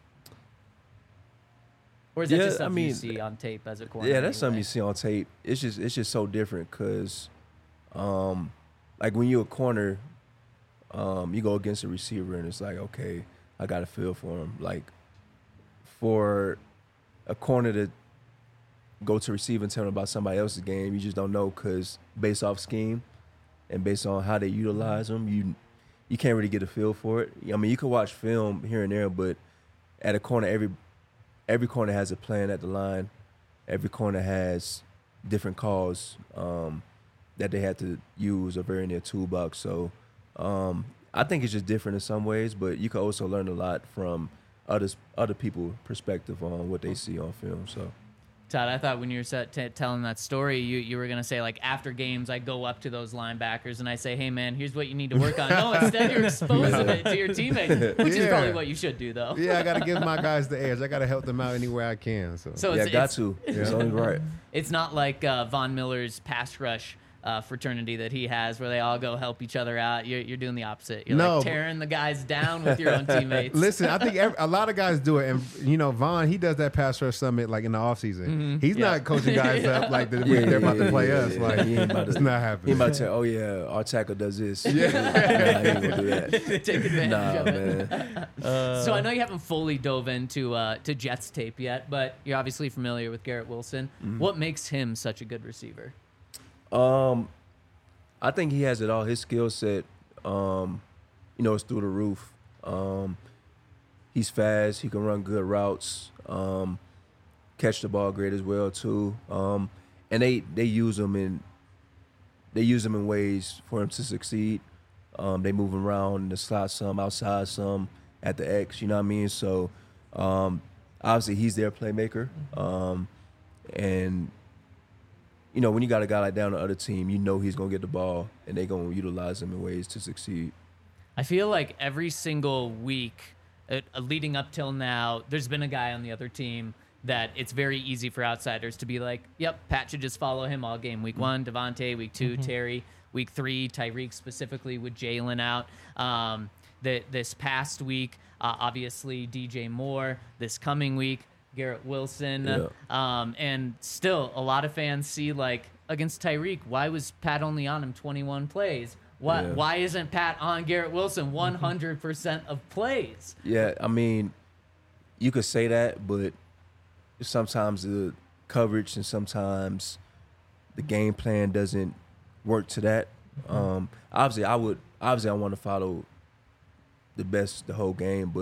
or is that Yeah, just I something you mean, see on tape as a corner? yeah, that's something anyway? you see on tape. It's just it's just so different because, um, like when you're a corner, um, you go against a receiver and it's like, okay, I got a feel for him. Like for a corner to go to receive and tell them about somebody else's game, you just don't know because based off scheme and based on how they utilize them, you you can't really get a feel for it. I mean, you can watch film here and there, but at a corner, every every corner has a plan at the line. Every corner has different calls um, that they had to use or very in their toolbox. So um, I think it's just different in some ways, but you can also learn a lot from others, other people's perspective on what they see on film. So. Todd, I thought when you were set t- telling that story, you, you were gonna say like after games, I go up to those linebackers and I say, "Hey man, here's what you need to work on." No, instead you're exposing it to your teammates, which is Yeah. probably what you should do, though. Yeah, I got to give my guys the edge. I got to help them out anywhere I can. So, So yeah, it's, got it's, to. It's only right. it's not like uh, Von Miller's pass rush uh, fraternity that he has, where they all go help each other out. You're, you're doing the opposite. You're No. like tearing the guys down with your own teammates. Listen, I think every, a lot of guys do it, and you know, Vaughn, he does that pass rush summit like in the off season. He's Yeah. not coaching guys up like the, they're about to play us. Like He ain't about to- it's not He happening. about to say, "Oh yeah, our tackle does this." Yeah, nah, he ain't gonna do that. Take advantage Nah, of it. man. So I know you haven't fully dove into uh, to Jets tape yet, but you're obviously familiar with Garrett Wilson. Mm-hmm. What makes him such a good receiver? Um, I think he has it all. His skill set, um, you know, is through the roof. Um, he's fast. He can run good routes. Um, catch the ball great as well too. Um, and they they use him in they use him in ways for him to succeed. Um, they move him around in the slot some, outside some, at the X. You know what I mean? So um, obviously he's their playmaker. Um, and you know, when you got a guy like that on the other team, you know he's going to get the ball, and they're going to utilize him in ways to succeed. I feel like every single week uh, uh, leading up till now, there's been a guy on the other team that it's very easy for outsiders to be like, yep, Pat should just follow him all game. Week one, Devontae. Week two, Terry. Week three, Tyreek specifically with Jalen out. Um, the, this past week, uh, obviously, D J Moore. This coming week, Garrett Wilson. Yeah. Um, and still, a lot of fans see, like, against Tyreek, why was Pat only on him twenty-one plays? Why, Yeah. why isn't Pat on Garrett Wilson one hundred percent of plays? Yeah, I mean, you could say that, but sometimes the coverage and sometimes the game plan doesn't work to that. Um, obviously, I would. Obviously, I want to follow the best the whole game, but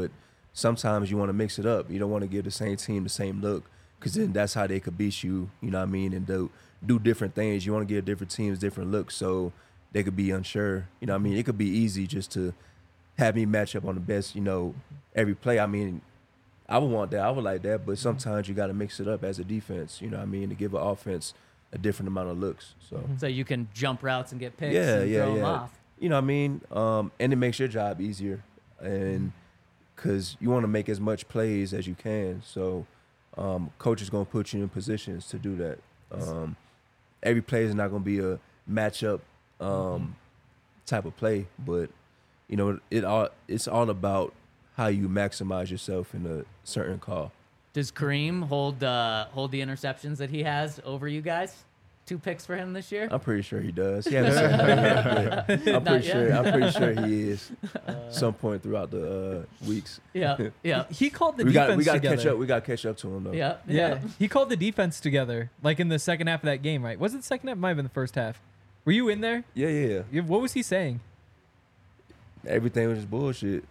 sometimes you want to mix it up. You don't want to give the same team the same look, because then that's how they could beat you, you know what I mean, and do, do different things. You want to give different teams different looks so they could be unsure. You know what I mean? It could be easy just to have me match up on the best, you know, every play. I mean, I would want that. I would like that, but sometimes you got to mix it up as a defense, you know what I mean, to give an offense a different amount of looks. So So you can jump routes and get picks yeah, and yeah, throw them yeah. off. You know what I mean? Um, and it makes your job easier, and because you want to make as much plays as you can. So um, coach is going to put you in positions to do that. Um, every play is not going to be a matchup um, type of play, but you know it all. It's all about how you maximize yourself in a certain call. Does Kareem hold uh, hold the interceptions that he has over you guys? Two picks for him this year? I'm pretty sure he does. He hasn't said that yet, but I'm Not pretty yet. sure. I'm pretty sure he is. Some point throughout the uh, weeks. Yeah, yeah, He called the we got defense we got to together. catch up. We got to catch up to him though. yeah, Yeah. He called the defense together, like in the second half of that game, right? Was it the second half? Might have been the first half. Were you in there? Yeah, yeah, yeah. You- What was he saying? Everything was just bullshit.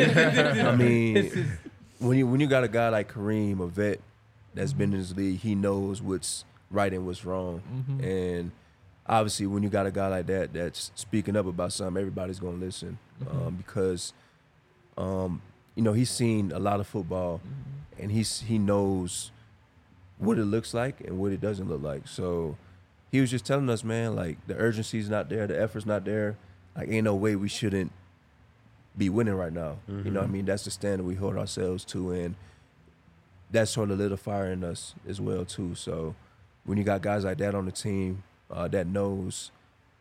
I mean, when you when you got a guy like Kareem, a vet that's been in this league, he knows what's right and what's wrong. Mm-hmm. And obviously, when you got a guy like that that's speaking up about something, everybody's gonna listen Mm-hmm. um, because, um, you know, he's seen a lot of football, Mm-hmm. and he's he knows what it looks like and what it doesn't look like. So he was just telling us, man, like the urgency's not there, the effort's not there. Like, ain't no way we shouldn't be winning right now. You know what I mean? That's the standard we hold ourselves to, and that's sort of lit a fire in us as well too. So when you got guys like that on the team uh, that knows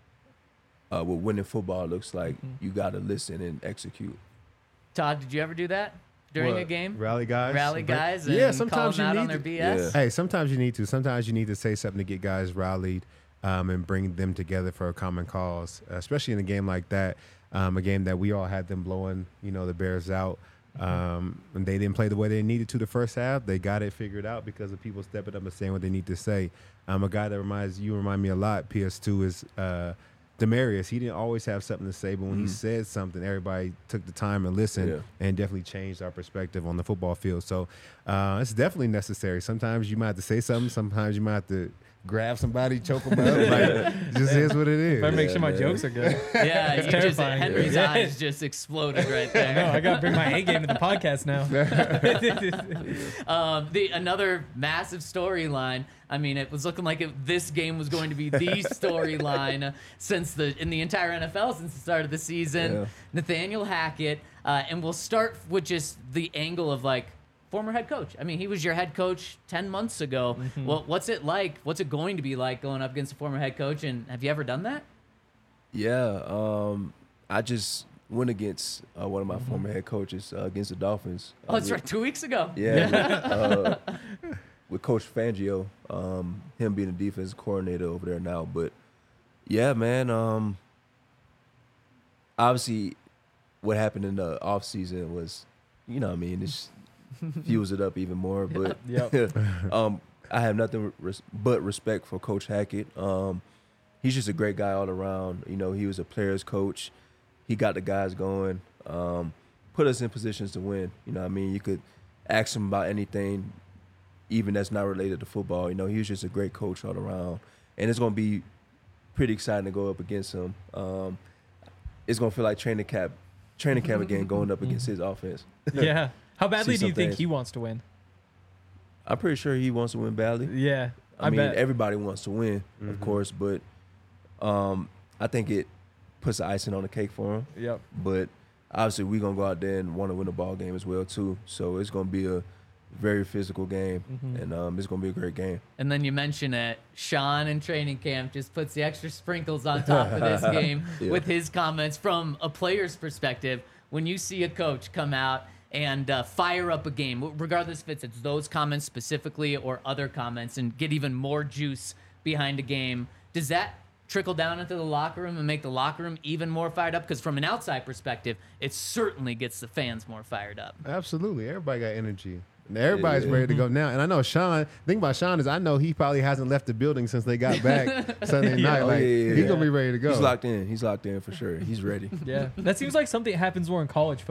uh, what winning football looks like, you got to listen and execute. Todd, did you ever do that during What? a game? Rally guys. Rally Bring- guys and yeah, call sometimes them you out need on their to- B S? Yeah. Hey, sometimes you need to. Sometimes you need to say something to get guys rallied um, and bring them together for a common cause, especially in a game like that. Um, a game that we all had them blowing, you know, the Bears out. Um, and they didn't play the way they needed to the first half. They got it figured out because of people stepping up and saying what they need to say. Um, a guy that reminds you remind me a lot, P S two, is uh, Demarius. He didn't always have something to say, but when he said something, everybody took the time and listened, Yeah. and definitely changed our perspective on the football field. So uh, it's definitely necessary. Sometimes you might have to say something. Sometimes you might have to grab somebody, choke them up. Like, just is what it is. Better make sure my man. jokes are good. Yeah, you just, terrifying. Henry's Yeah. eyes just exploded right there. No, I gotta bring my A game to the podcast now. Um, the another massive storyline. I mean, it was looking like it, this game was going to be the storyline since the in the entire N F L since the start of the season. Yeah. Nathaniel Hackett, uh, and we'll start with just the angle of like former head coach. I mean, he was your head coach ten months ago. Well, what's it like? What's it going to be like going up against a former head coach? And have you ever done that? Yeah, um, I just went against uh, one of my former head coaches uh, against the Dolphins. Oh, Uh, that's with- right, two weeks ago. Yeah, with, uh, with Coach Fangio, um, him being the defensive coordinator over there now. But yeah, man, um, obviously what happened in the off season was, you know what I mean, it's fuels it up even more. But Yep. um, I have nothing res- but respect for Coach Hackett. Um, he's just a great guy all around. You know, he was a player's coach. He got the guys going, um, put us in positions to win. You know what I mean? You could ask him about anything, even that's not related to football. You know, he was just a great coach all around. And it's going to be pretty exciting to go up against him. Um, it's going to feel like training camp, training camp again, going up against his offense. Yeah. How badly See do you some think things. he wants to win? I'm pretty sure he wants to win badly. Yeah. I, I, mean, bet. everybody wants to win, of course, but um, I think it puts the icing on the cake for him. Yep. But obviously, we're gonna go out there and want to win the ball game as well too. So it's gonna be a very physical game, and um, it's gonna be a great game. And then you mention it, Sean in training camp just puts the extra sprinkles on top of this game Yeah. with his comments from a player's perspective. When you see a coach come out and uh, fire up a game, regardless if it's, it's those comments specifically or other comments, and get even more juice behind a game, does that trickle down into the locker room and make the locker room even more fired up? Because from an outside perspective, it certainly gets the fans more fired up. Absolutely. Everybody got energy. And everybody's Yeah. ready to go now. And I know Sean, the thing about Sean is I know he probably hasn't left the building since they got back Sunday night. Oh, Like, yeah, yeah, he's yeah. going to be ready to go. He's locked in. He's locked in for sure. He's ready. Yeah. That seems like something that happens more in college football.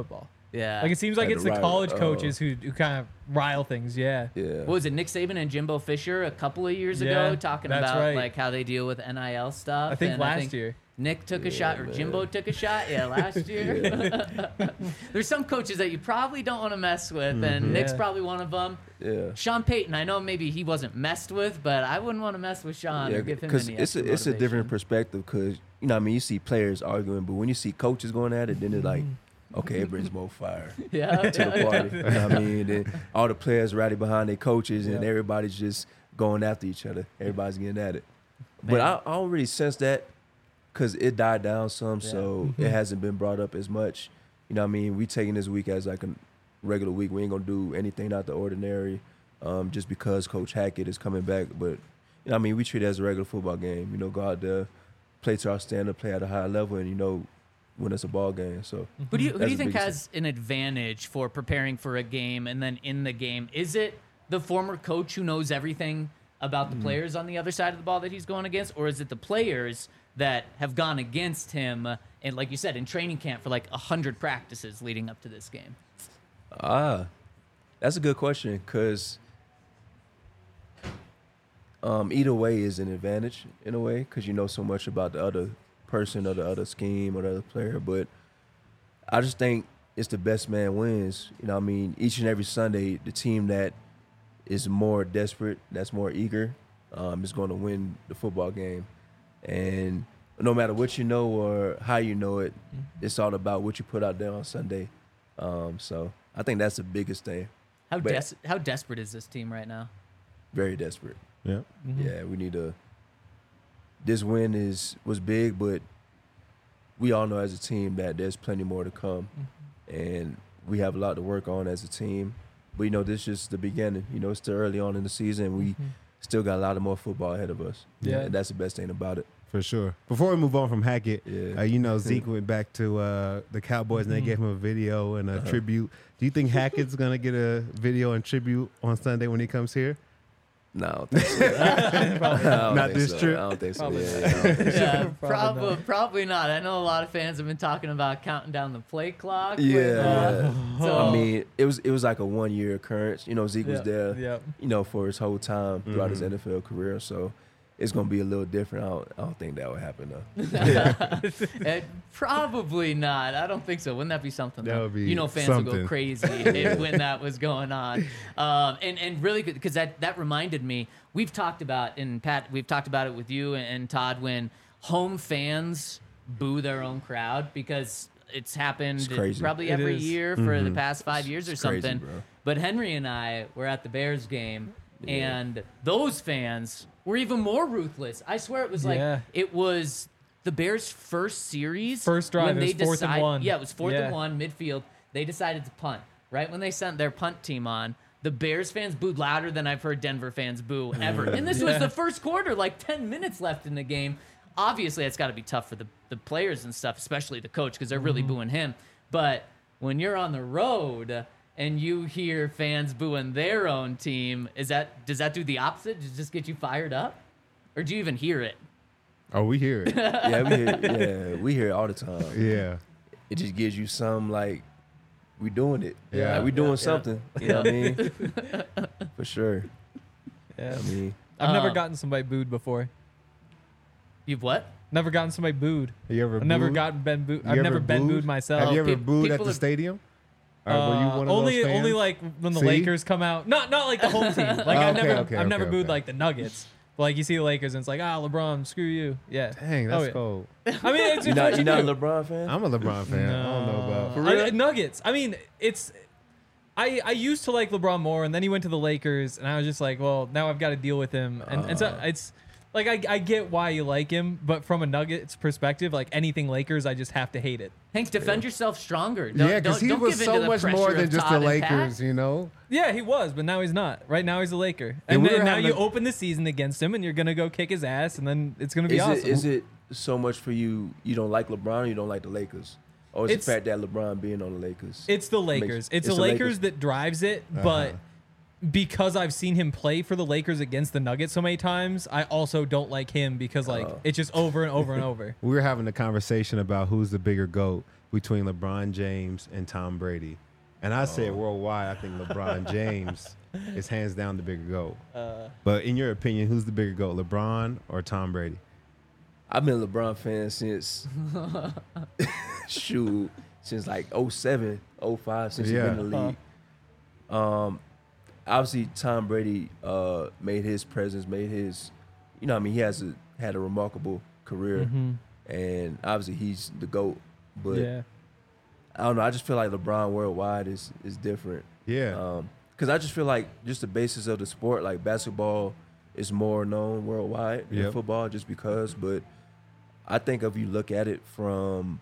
Yeah. Like it seems like Had it's to the rile- college oh. coaches who, who kind of rile things. Yeah. Yeah. What was it, Nick Saban and Jimbo Fisher a couple of years Yeah, ago talking that's about right. like how they deal with N I L stuff? I think and last year. Nick took a Yeah, shot, or man. Jimbo took a shot. Yeah, last year. There's some coaches that you probably don't want to mess with, and Nick's Yeah. probably one of them. Yeah. Sean Payton, I know maybe he wasn't messed with, but I wouldn't want to mess with Sean or give him any it's extra a, it's a different motivation. perspective because you know what I mean you see players arguing, but when you see coaches going at it, then it's like, okay, it brings more fire Yeah, to the party. You know what I mean? Then all the players rally behind their coaches, and Yeah. everybody's just going after each other. Everybody's getting at it. But Man. I, I don't really sense that because it died down some, so Mm-hmm. it hasn't been brought up as much. You know what I mean? We taking this week as like a regular week. We ain't gonna do anything out the ordinary, um, just because Coach Hackett is coming back. But you know what I mean? We treat it as a regular football game. You know, go out there, play to our standard, play at a high level, and you know, when it's a ball game. So Who do you who do That's you the think biggest has an advantage for preparing for a game and then in the game? Is it the former coach who knows everything about the Mm. players on the other side of the ball that he's going against, or is it the players that have gone against him uh, and, like you said, in training camp for like a hundred practices leading up to this game? Ah, that's a good question because um, either way is an advantage in a way because you know so much about the other person or the other scheme or the other player. But I just think it's the best man wins. You know what I mean? Each and every Sunday, the team that is more desperate, that's more eager, um, is going to win the football game. And no matter what you know or how you know it, it's all about what you put out there on Sunday. Um, so I think that's the biggest thing. How But- des- how desperate is this team right now? Very desperate. Yeah. Yeah, we need to. This win is was big, but we all know as a team that there's plenty more to come, and we have a lot to work on as a team. But you know, this is just the beginning. You know, it's still early on in the season. We still got a lot of more football ahead of us. Yeah. and that's the best thing about it. For sure. Before we move on from Hackett, Yeah. uh, you know, Zeke went back to uh, the Cowboys and they gave him a video and a tribute. Do you think Hackett's going to get a video and tribute on Sunday when he comes here? No, I don't think so. I don't Not think this so. trip? I don't think so. Probably Yeah, not. yeah, I don't think so. Yeah, Probably probably not. probably not. I know a lot of fans have been talking about counting down the play clock. with, Yeah, uh, yeah. so- I mean, it was it was like a one year occurrence. You know, Zeke was Yeah, there. yeah. You know, for his whole time throughout his Mhm. N F L career. So it's gonna be a little different. I don't, I don't think that would happen though. Eh, probably not. I don't think so. Wouldn't that be something? That though? would be you know, fans would something. go crazy if, when that was going on. Um, and and really, because that that reminded me. We've talked about and Pat. We've talked about it with you and, and Todd when home fans boo their own crowd because it's happened It's crazy. probably It every is. year for the past five years or It's crazy, something. bro. But Henry and I were at the Bears game, Yeah. and those fans were even more ruthless. I swear it was like Yeah. it was the Bears' first series. First drive, when it they was fourth and decide- one. Yeah, it was fourth Yeah. and one, midfield. They decided to punt. Right when they sent their punt team on, the Bears fans booed louder than I've heard Denver fans boo ever. And this was Yeah. the first quarter, like ten minutes left in the game. Obviously, it's got to be tough for the, the players and stuff, especially the coach, because they're really Mm-hmm. booing him. But when you're on the road and you hear fans booing their own team, is that does that do the opposite? Does it just get you fired up? Or do you even hear it? Oh, we hear it. Yeah, we hear, yeah, we hear it all the time. Yeah. It just gives you some like we doing it. Yeah. like, we doing Yeah. something. You know what I mean? For sure. Yeah. I mean, I've never Um, gotten somebody booed before. You've what? Never gotten somebody booed. You ever I've never booed? gotten been booed. You I've ever never been booed? booed myself. Have you ever pe- booed at people the have- stadium? Or were you Uh, one of only those fans? only like when the See? Lakers come out. Not not like the home team. Like Oh, I've okay, never okay, I've never okay, booed okay. like the Nuggets. But, like you see the Lakers and it's like ah LeBron screw you. Yeah. Dang, that's Oh, yeah. cold. I mean it's you're it's not what you're you not a do. LeBron fan. I'm a LeBron fan. I don't know about. For I- real? I- Nuggets. I mean it's. I, I used to like LeBron more, and then he went to the Lakers, and I was just like, well, now I've got to deal with him, and, and so Uh. it's like I, I get why you like him, but from a Nuggets perspective, like anything Lakers, I just have to hate it. Hank, defend yourself stronger. Don't, Yeah, because don't- he don't was give so into the much pressure more of than just the Todd and Pat. Lakers, you know? Yeah, he was, but now he's not. Right now he's a Laker, And and, we then were now having you a- open the season against him, and you're gonna go kick his ass, and then it's gonna be Is awesome. it is it so much for you? You don't like LeBron, or you don't like the Lakers, or is It's- the fact that LeBron being on the Lakers? It's the makes- Lakers. It's, it's the the Lakers, Lakers. that drives it, Uh-huh. but because I've seen him play for the Lakers against the Nuggets so many times, I also don't like him because like Oh. it's just over and over and over. We were having a conversation about who's the bigger GOAT between LeBron James and Tom Brady. And I said worldwide, I think LeBron James is hands down the bigger GOAT. Uh, But in your opinion, who's the bigger GOAT, LeBron or Tom Brady? I've been a LeBron fan since shoot since like oh seven, oh five, since Yeah. he's been in the league. Um, obviously Tom Brady uh, made his presence, made his, you know, what I mean, he has a, had a remarkable career, mhm. and obviously he's the GOAT. But Yeah. I don't know. I just feel like LeBron worldwide is is different. Yeah. Um, because I just feel like just the basis of the sport, like basketball, is more known worldwide than Yep. football, just because. But I think if you look at it from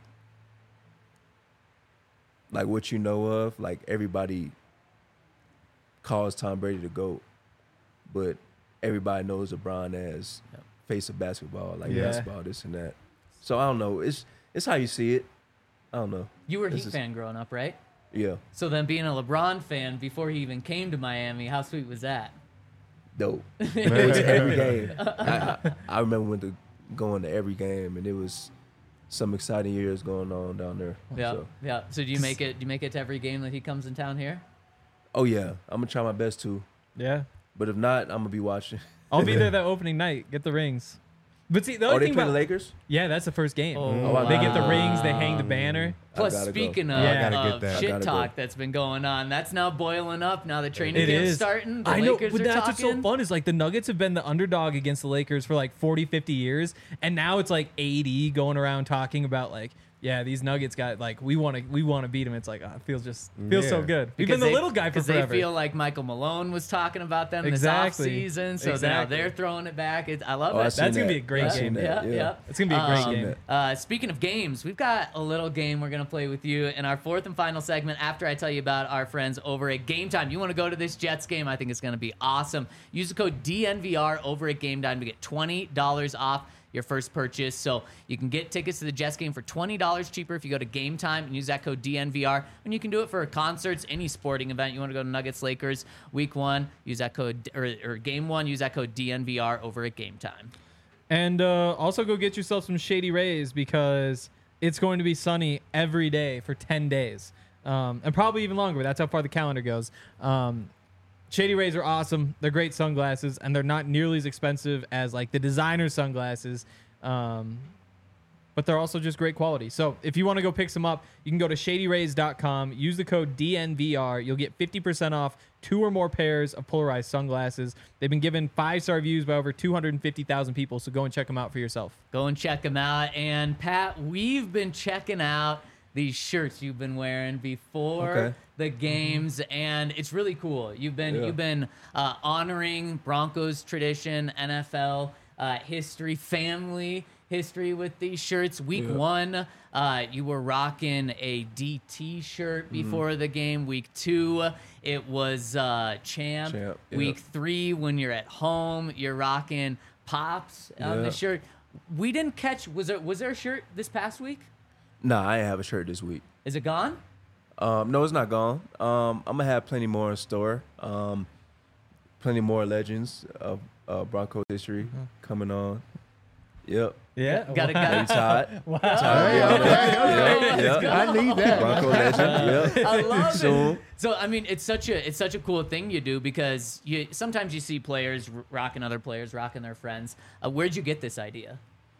like what you know of, like everybody calls Tom Brady the GOAT, but everybody knows LeBron as Yep. face of basketball, like Yeah. basketball, this and that. So I don't know. It's it's how you see it. I don't know. You were a This Heat is- fan growing up, right? Yeah, So then being a LeBron fan before he even came to Miami, how sweet was that? dope. It was every game. I, I, I remember when to going to every game, and it was some exciting years going on down there. Yeah, So, yeah. So do you make it? Do you make it to every game that he comes in town here? oh yeah, I'm gonna try my best to. Yeah. But if not, I'm gonna be watching. I'll be there that opening night. Get the rings. But see, the Oh, only they thing play about the Lakers? yeah, that's the first game. Oh, wow. They get the rings. They hang the banner. Plus, gotta go. speaking of, Yeah. I gotta get of that. I shit gotta talk go. that's been going on, that's now boiling up. Now the training It camp's is starting. The I know, Lakers but are that's what's so talking. fun is like the Nuggets have been the underdog against the Lakers for like forty, fifty years, and now it's like A D going around talking about like, yeah, these Nuggets got like we want to we want to beat them. It's like oh, it feels just feels so Yeah. good. We've Because been the they- little guy for because forever. they feel like Michael Malone was talking about them Exactly. this offseason, so now Exactly. they're throwing it back. It, I love Oh, I it. seen That's gonna that. be a great I yeah, seen game. that, Yeah, yeah. It's gonna be a great Um, game. Uh, speaking of games, we've got a little game we're gonna play with you in our fourth and final segment. After I tell you about our friends over at Game Time, you want to go to this Jets game? I think it's gonna be awesome. Use the code D N V R over at Game Time to get twenty dollars off your first purchase. So you can get tickets to the Jets game for twenty dollars cheaper if you go to Game Time and use that code D N V R. And you can do it for concerts, any sporting event. You want to go to Nuggets Lakers week one, use that code, or, or game one, use that code D N V R over at Game Time. And uh, also go get yourself some Shady Rays because it's going to be sunny every day for ten days. Um, and probably even longer. That's how far the calendar goes. Um, Shady Rays are awesome. They're great sunglasses, and they're not nearly as expensive as like the designer sunglasses. Um, but they're also just great quality. So if you want to go pick some up, you can go to shady rays dot com. Use the code D N V R. You'll get fifty percent off two or more pairs of polarized sunglasses. They've been given five-star reviews by over two hundred fifty thousand people, so go and check them out for yourself. Go and check them out. And Pat, we've been checking out these shirts you've been wearing before Okay. the games, and it's really cool. You've been Yeah. you've been uh, honoring Broncos tradition, N F L uh, history, family history with these shirts. Week Yeah. one, uh, you were rocking a D T shirt Mm-hmm. before the game. Week two, it was uh, champ. Champ, yeah. Week three, when you're at home, you're rocking Pops on the Yeah. shirt. We didn't catch. Was there was there a shirt this past week? Nah, I ain't have a shirt this week. Is it gone? Um, no, it's not gone. Um, I'm gonna have plenty more in store. Um, plenty more legends of uh, Broncos history Mm-hmm. coming on. Yep. Yeah, Gotta- wow. gotta- Hey, Todd. Wow. Todd, be on there. Yep, yep. I need that. Bronco legend. Yep. I love Soon. it. So I mean, it's such a it's such a cool thing you do because you sometimes you see players r- rocking other players, rocking their friends. Uh, where'd you get this idea?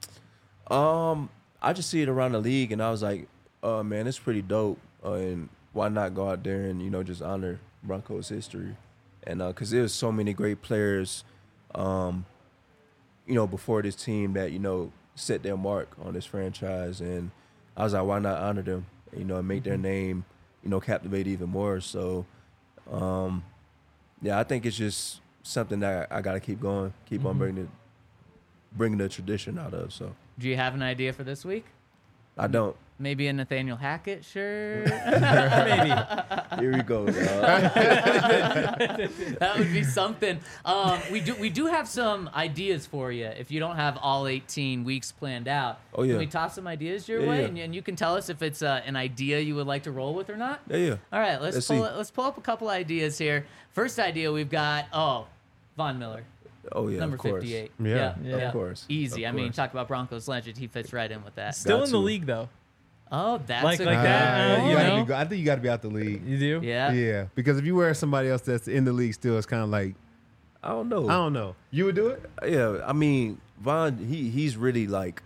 Um, I just see it around the league, and I was like, "Oh man, it's pretty dope." Uh, and why not go out there and you know just honor Broncos history? And because there's so many great players, um, you know, before this team that you know set their mark on this franchise, and I was like, why not honor them? You know, and make their name, you know, captivate even more. So, um, yeah, I think it's just something that I, I got to keep going, keep on bringing it, bringing the tradition out of. So. Do you have an idea for this week? I don't. Maybe a Nathaniel Hackett shirt. Maybe. Here we go. dog. That would be something. Um, we do we do have some ideas for you if you don't have all eighteen weeks planned out. Oh, yeah. Can we toss some ideas your Yeah, way, yeah. And, and you can tell us if it's uh, an idea you would like to roll with or not? Yeah, yeah. All right, let's, Let's pull see. let's pull up a couple ideas here. First idea we've got oh, Von Miller. Oh yeah, Number of course. fifty-eight. Yeah. Yeah. Of course. Easy. Of I mean, course. talk about Broncos legend. He fits right in with that. Still Got in the to. league though. Oh, that's Like- a like good that, uh, point. you gotta know? be go- I think you got to be out the league. You do? Yeah. Yeah, because if you wear somebody else that's in the league still, it's kind of like I don't know. I don't know. You would do it? Yeah, I mean, Von, he he's really like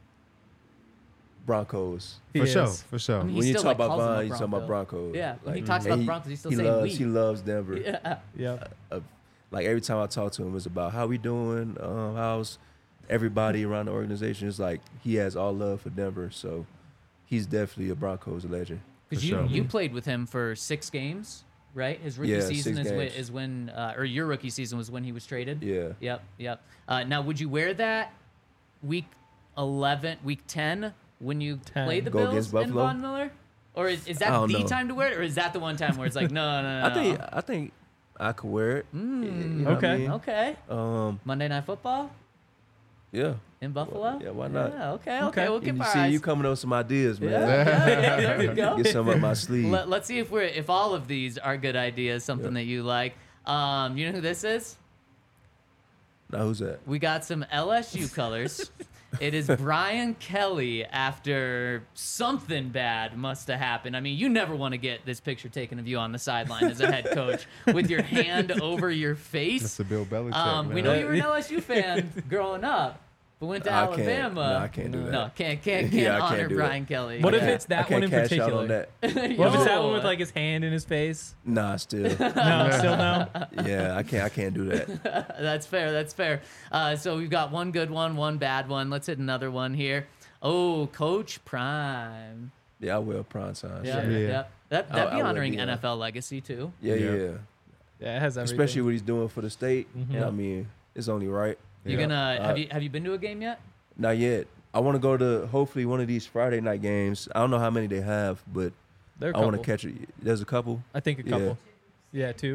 Broncos. He For sure, is. for sure. I mean, He When you still, talk like, about calls him a Von, you talking about Bronco. Broncos. Yeah, when he Like, talks and about Broncos, he's still he saying loves, we. He loves Denver. Yeah. Yeah. Uh, like every time I talk to him, it's about how we doing, um, how's everybody around the organization. It's like he has all love for Denver, so he's definitely a Broncos legend. Because For you sure. you played with him for six games, right? His rookie Yeah, season six is when, games. is when uh, or your rookie season was when he was traded. Yeah. Yep. Yep. Uh, now, would you wear that week eleven, week ten when you ten. played the Go Bills against in Buffalo? Von Miller? Or is, is I that don't the know. time to wear it, or is that the one time where it's like, no, no, no, I think no. I think I could wear it. Mm, You know what I okay. mean? Okay. Um. Monday Night Football Yeah. in Buffalo. Yeah. Why not? Yeah, okay. Okay. Okay. We'll You keep our see, eyes. you coming up with some ideas, man. Yeah, yeah, yeah, there we go. Get some up my sleeve. Let, let's see if we're if all of these are good ideas, something that you like. Um, you know who this is? Now who's that? We got some L S U colors. It is Brian Kelly after something bad must have happened. I mean, you never want to get this picture taken of you on the sideline as a head coach with your hand over your That's face. the Bill Belichick. Um, we man. know you were an L S U fan growing up, but went to I can't- Alabama. no, I can't do No, that. can't can't can't Yeah, I can't honor do that. Brian Kelly. What if Yeah. it's I that can't one in cash particular? out on that. What if it's that one Yo. with like his hand in his face? Nah, still. No, still no. Yeah, I can't. I can't do that. That's fair. That's fair. Uh, so we've got one good one, one bad one. Let's hit another one here. Oh, Coach Prime. Yeah, I will prime time. Yeah, Sure. Yeah. yeah. That I- that'd I be would honoring do that. N F L legacy too. Yeah, yeah, Yeah. yeah. Yeah, it has everything. Especially what he's doing for the state. Yeah. I mean, it's only right. You Yeah. gonna Uh, have you have you been to a game yet? Not yet. I want to go to hopefully one of these Friday night games. I don't know how many they have, but There are a I want to couple. catch it. There's a couple. I think a Yeah. couple. Yeah, two.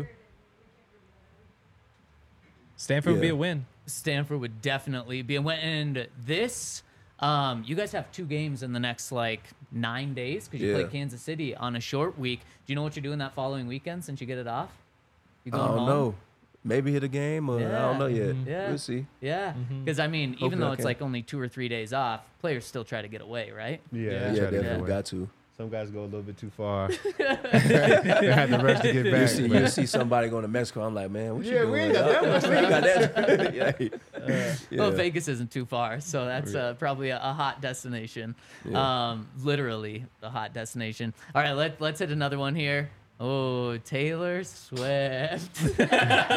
Stanford would be Yeah. a win. Stanford would definitely be. And this, um, you guys have two games in the next like nine days because you Yeah. play Kansas City on a short week. Do you know what you're doing that following weekend since you get it off? You I going don't home? know. Maybe hit a game or I don't know yet. Yeah. We'll see. Yeah, Mhm. because I mean, even Hopefully though I it's can. like only two or three days off, players still try to get away, right? Yeah, Yeah. they Yeah, try to get definitely away. got to. Some guys go a little bit too far. they had to rush to get You back. see, but- you see somebody going to Mexico. I'm like, man, what you Yeah, doing? we ain't got that dog? much We ain't got that. yeah. Well, Yeah. Vegas isn't too far, so that's uh, probably a, a hot destination. Yeah. Um, literally a hot destination. All right, let let's hit another one here. Oh, Taylor Swift. oh, you're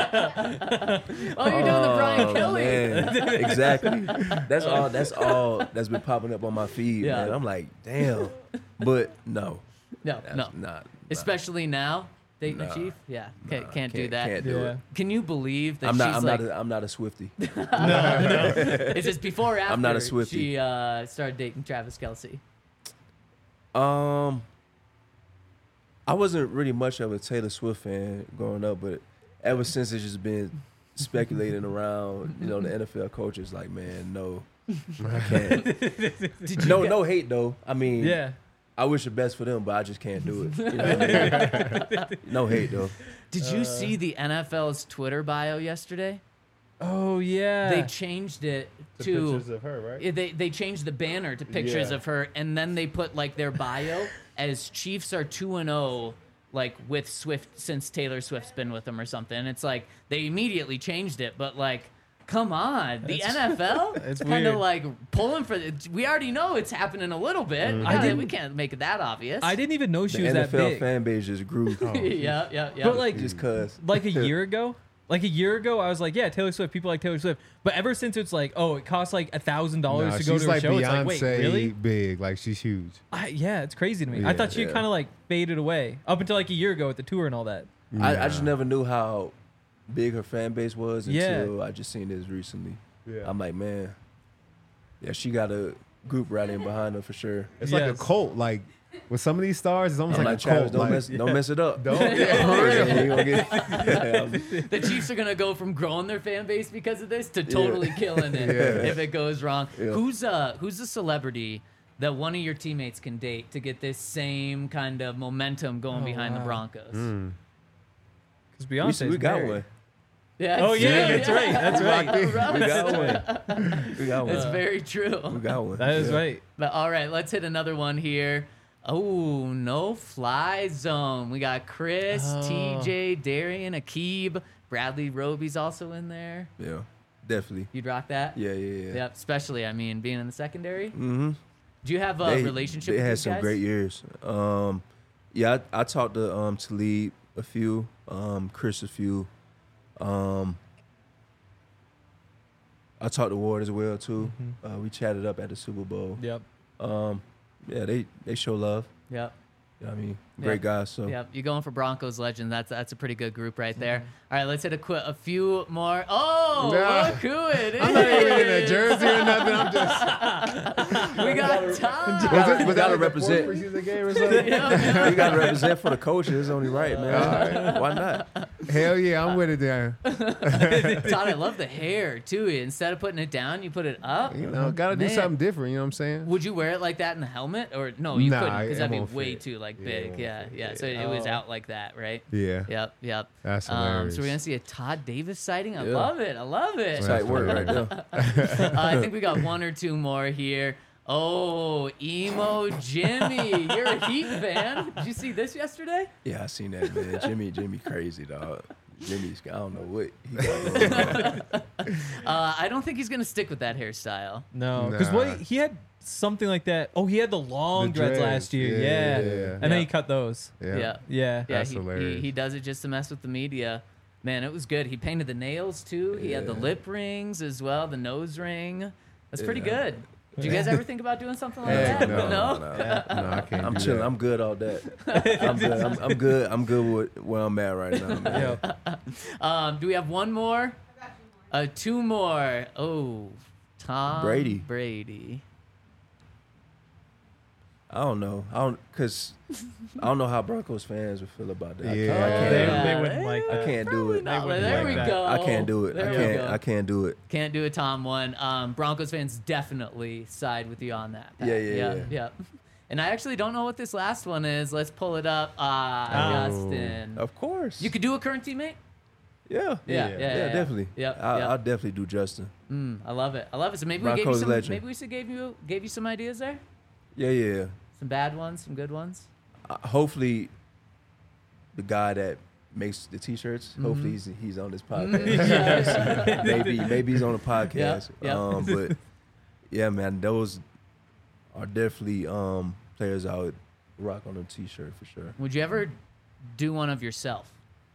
doing the Brian Oh, Kelly. man. Exactly. That's all. That's all that's been popping up on my feed, Yeah. man. I'm like, damn. But no, No, that's no. not. not. Especially now, Dayton Nah. Chief. Yeah, can't, Nah, can't do can't- that. can't do Yeah. it. Can you believe that I'm she's not. I'm like? not. A, I'm not a Swiftie. It's just before or after I'm not a Swiftie. she uh, started dating Travis Kelce. Um, I wasn't really much of a Taylor Swift fan growing up, but ever since it's just been speculating around, you know, the N F L coaches, like, man, no, I can't. Did you no, get- no hate though. I mean, Yeah. I wish the best for them, but I just can't do it. You know what I mean? No hate though. Did you see the N F L's Twitter bio yesterday? Oh yeah. They changed it The to pictures of her, right? Yeah, they they changed the banner to pictures Yeah. of her, and then they put like their bio as Chiefs are two and zero, like with Swift since Taylor Swift's been with them or something. And it's like they immediately changed it, but like, come on, the That's- N F L, it's kind of weird. like pulling for. The, we already know it's happening a little bit. Mm-hmm. I Yeah, didn't- we can't make it that obvious. I didn't even know she The was N F L that big. fan base just grew. yeah, yeah, yeah. But like, just cause. like a year ago, like a year ago, I was like, yeah, Taylor Swift. People like Taylor Swift. But ever since it's like, oh, it costs like a thousand dollars Nah, to go she's to a like show. It's Beyonce like, wait, really? big. Like she's huge. I, yeah, it's crazy to me. I Yeah. thought she Yeah. kind of like faded away up until like a year ago with the tour and all that. I, I just Yeah. never knew how big her fan base was Yeah. until I just seen this recently. Yeah. I'm like, man, yeah, she gotta group rallying behind them for sure. It's like a Yes. cult. Like with some of these stars, it's almost I'm like, like a Travis, cult. don't like, mess, don't mess it up. Don't, yeah, for real. Yeah, you gonna get- The Chiefs are gonna go from growing their fan base because of this to totally killing it Yeah. if it goes wrong. Yeah. Who's uh who's the celebrity that one of your teammates can date to get this same kind of momentum going Oh, behind the wow. Broncos? Mm. Because we, Beyonce. we got one. Yeah, Oh yeah, yeah, that's right. That's right. Russ. We got one. We got That's one. very true. We got one. That is Yeah. right. But all right, let's hit another one here. Oh, no fly zone. We got Chris, Oh. T J, Darian, Akib, Bradley Roby's also in there. Yeah, definitely. You'd rock that? Yeah, yeah, yeah. Yep, especially, I mean, being in the secondary. Mm-hmm. Do you have a they, relationship They with had these some guys? great years. Um, yeah, I, I talked to um Talib a few, um, Chris a few. Um, I talked to Ward as well too. Mm-hmm. Uh, we chatted up at the Super Bowl. Yep. Um, yeah, they they show love. Yep. You know what I mean, great Yep. guys. So Yep, you're going for Broncos legend. That's that's a pretty good group right there. Mm-hmm. All right, let's hit a qu- a few more. Oh, Nah. look who it is! I'm not even in a jersey or nothing. I'm just. We got Tom. Was, it, was gotta that like represent. the fourth preseason game or something? you got to represent for the coaches. It's only right, man. Why not? Hell yeah, I'm with it there. Todd, I love the hair too. Instead of putting it down, you put it up. You know, got to do Man. something different. You know what I'm saying? Would you wear it like that in the helmet, or no? You Nah, couldn't because it that'd be won't way fit. too like Yeah, it big. won't Yeah, fit. yeah. So it was Oh. out like that, right? Yeah, Yep, yep. that's Um, hilarious. so we're gonna see a Todd Davis sighting. I Yeah. love it. I love it. It's like work right there. Uh, I think we got one or two more here. Oh, emo Jimmy, you're a Heat fan. Did you see this yesterday? Yeah, I seen that, man. Jimmy, Jimmy, crazy dog. Jimmy's, I don't know what he got going on. Uh, I don't think he's gonna stick with that hairstyle. No, because Nah. what he had something like that. Oh, he had the long The dreads, dreads. last year. Yeah, Yeah, yeah, yeah. and Yeah. then he cut those. Yeah. Yeah, Yeah. yeah. That's he, he, hilarious. he does it just to mess with the media. Man, it was good. He painted the nails too. He had the Yeah. lip rings as well, the nose ring. That's pretty Yeah. good. Did you guys ever think about doing something like Heck that? no. No, no? no. No, I can't. I'm do chilling. that. I'm good all that. I'm good. I'm, I'm good. I'm good with where I'm at right now, man. Yeah. Um, do we have one more? Uh, two more. Oh, Tom Brady. Brady. I don't know. I don't because I don't know how Broncos fans would feel about that. I Yeah. can't, I They- can't, they wouldn't like I that. can't do Probably it. not. wouldn't There like we that. go. I can't do it. There I we can't. go. I can't do it. Can't do it, Tom. One. Um, Broncos fans definitely side with you on that. Pat. Yeah, yeah, yeah, yeah. yeah. And I actually don't know what this last one is. Let's pull it up. Ah, Oh. Justin. Of course. You could do a current teammate. Yeah. Yeah, yeah, yeah, Yeah, yeah. definitely. Yep, I, yep. I'll definitely do Justin. Mm, I love it. I love it. So maybe we gave you Broncos some. legend. Maybe we should gave you gave you some ideas there. Yeah, yeah. yeah. Some bad ones, some good ones. Uh, hopefully, the guy that makes the T-shirts. Mm-hmm. Hopefully, he's he's on this podcast. maybe maybe he's on a podcast. yeah. Um, but yeah, man, those are definitely um, players I would rock on a T-shirt for sure. Would you ever do one of yourself?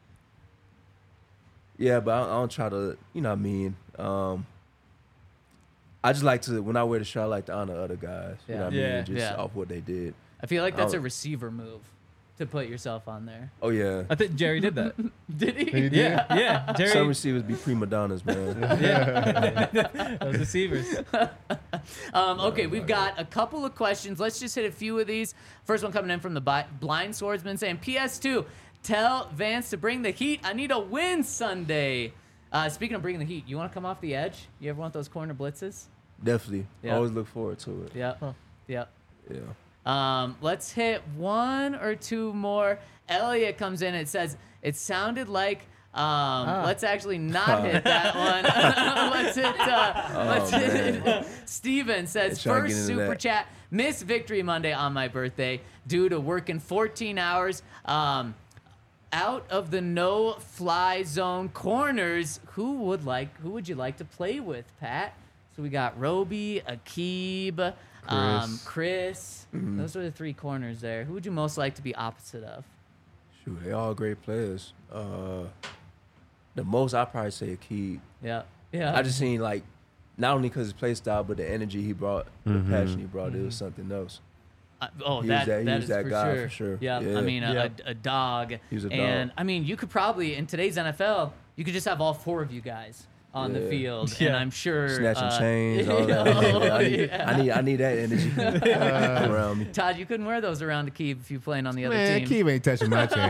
Yeah, but I, I don't try to, you know what I mean. Um, I just like to when I wear the shirt, I like to honor other guys. You Yeah. know what I Yeah. mean? Just Yeah. off what they did. I feel like that's Oh. a receiver move to put yourself on there. Oh yeah. I think Jerry did that. Did he? He did? Yeah, yeah. Some Jerry. receivers be prima donnas, man. Yeah. Those receivers. Um, okay, we've got a couple of questions. Let's just hit a few of these. First one coming in from the Bi- Blind Swordsman saying, P S two, tell Vance to bring the heat. I need a win Sunday. Uh, speaking of bringing the heat, you want to come off the edge? You ever want those corner blitzes? Definitely. Yeah. Always look forward to it. Yep. Yep. Yeah. Um, let's hit one or two more. Elliot comes in. It says, it sounded like. Um, Let's actually not hit that one. let's hit. Uh, let's hit. Steven says, Try to get first into super that. chat. Miss Victory Monday on my birthday due to working fourteen hours. Um, out of the no-fly zone corners, who would like? Who would you like to play with, Pat? So we got Roby, Akib, um, Chris. Mm-hmm. Those are the three corners there. Who would you most like to be opposite of? Shoot, they all great players. Uh, the most I probably say Akib. Yeah, yeah. I just seen like not only because his play style, but the energy he brought, Mhm. the passion he brought. It was something else. Uh, oh, He was that, that- he that was is that for guy sure. for sure. Yeah, Yeah. I mean, a, Yeah. a, a dog. He was a And dog. I mean, you could probably in today's N F L, you could just have all four of you guys on the Yeah. field, and Yeah. I'm sure Snatching uh, chains, all that. oh, I, need, yeah. I need I need that energy around me. Todd, you couldn't wear those around Akeem if you playing on the other Man, team. Keem ain't touching my chain.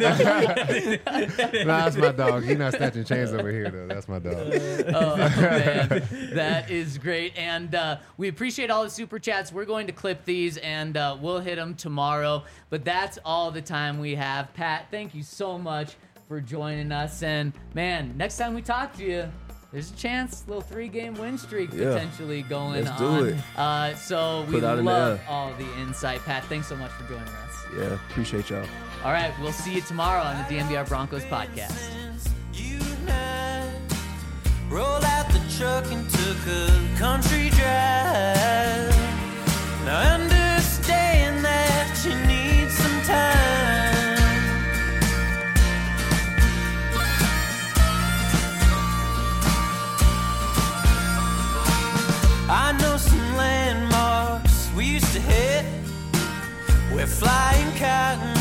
Nah, that's my dog. He not snatching chains over here though. That's my dog. Oh, man. That is great. And uh, we appreciate all the super chats. We're going to clip these and uh, we'll hit them tomorrow. But that's all the time we have. Pat, thank you so much for joining us. And man, next time we talk to you, there's a chance, little three-game win streak Yeah. potentially going Let's do on. it. Uh, so we Put out in the love air. all the insight. Pat, thanks so much for joining us. Yeah, appreciate y'all. All right, we'll see you tomorrow on the D M V R Broncos podcast. Unite, rolled out the truck and took a country drive. Now understand that you need some time. I know some landmarks we used to hit. We're flying cotton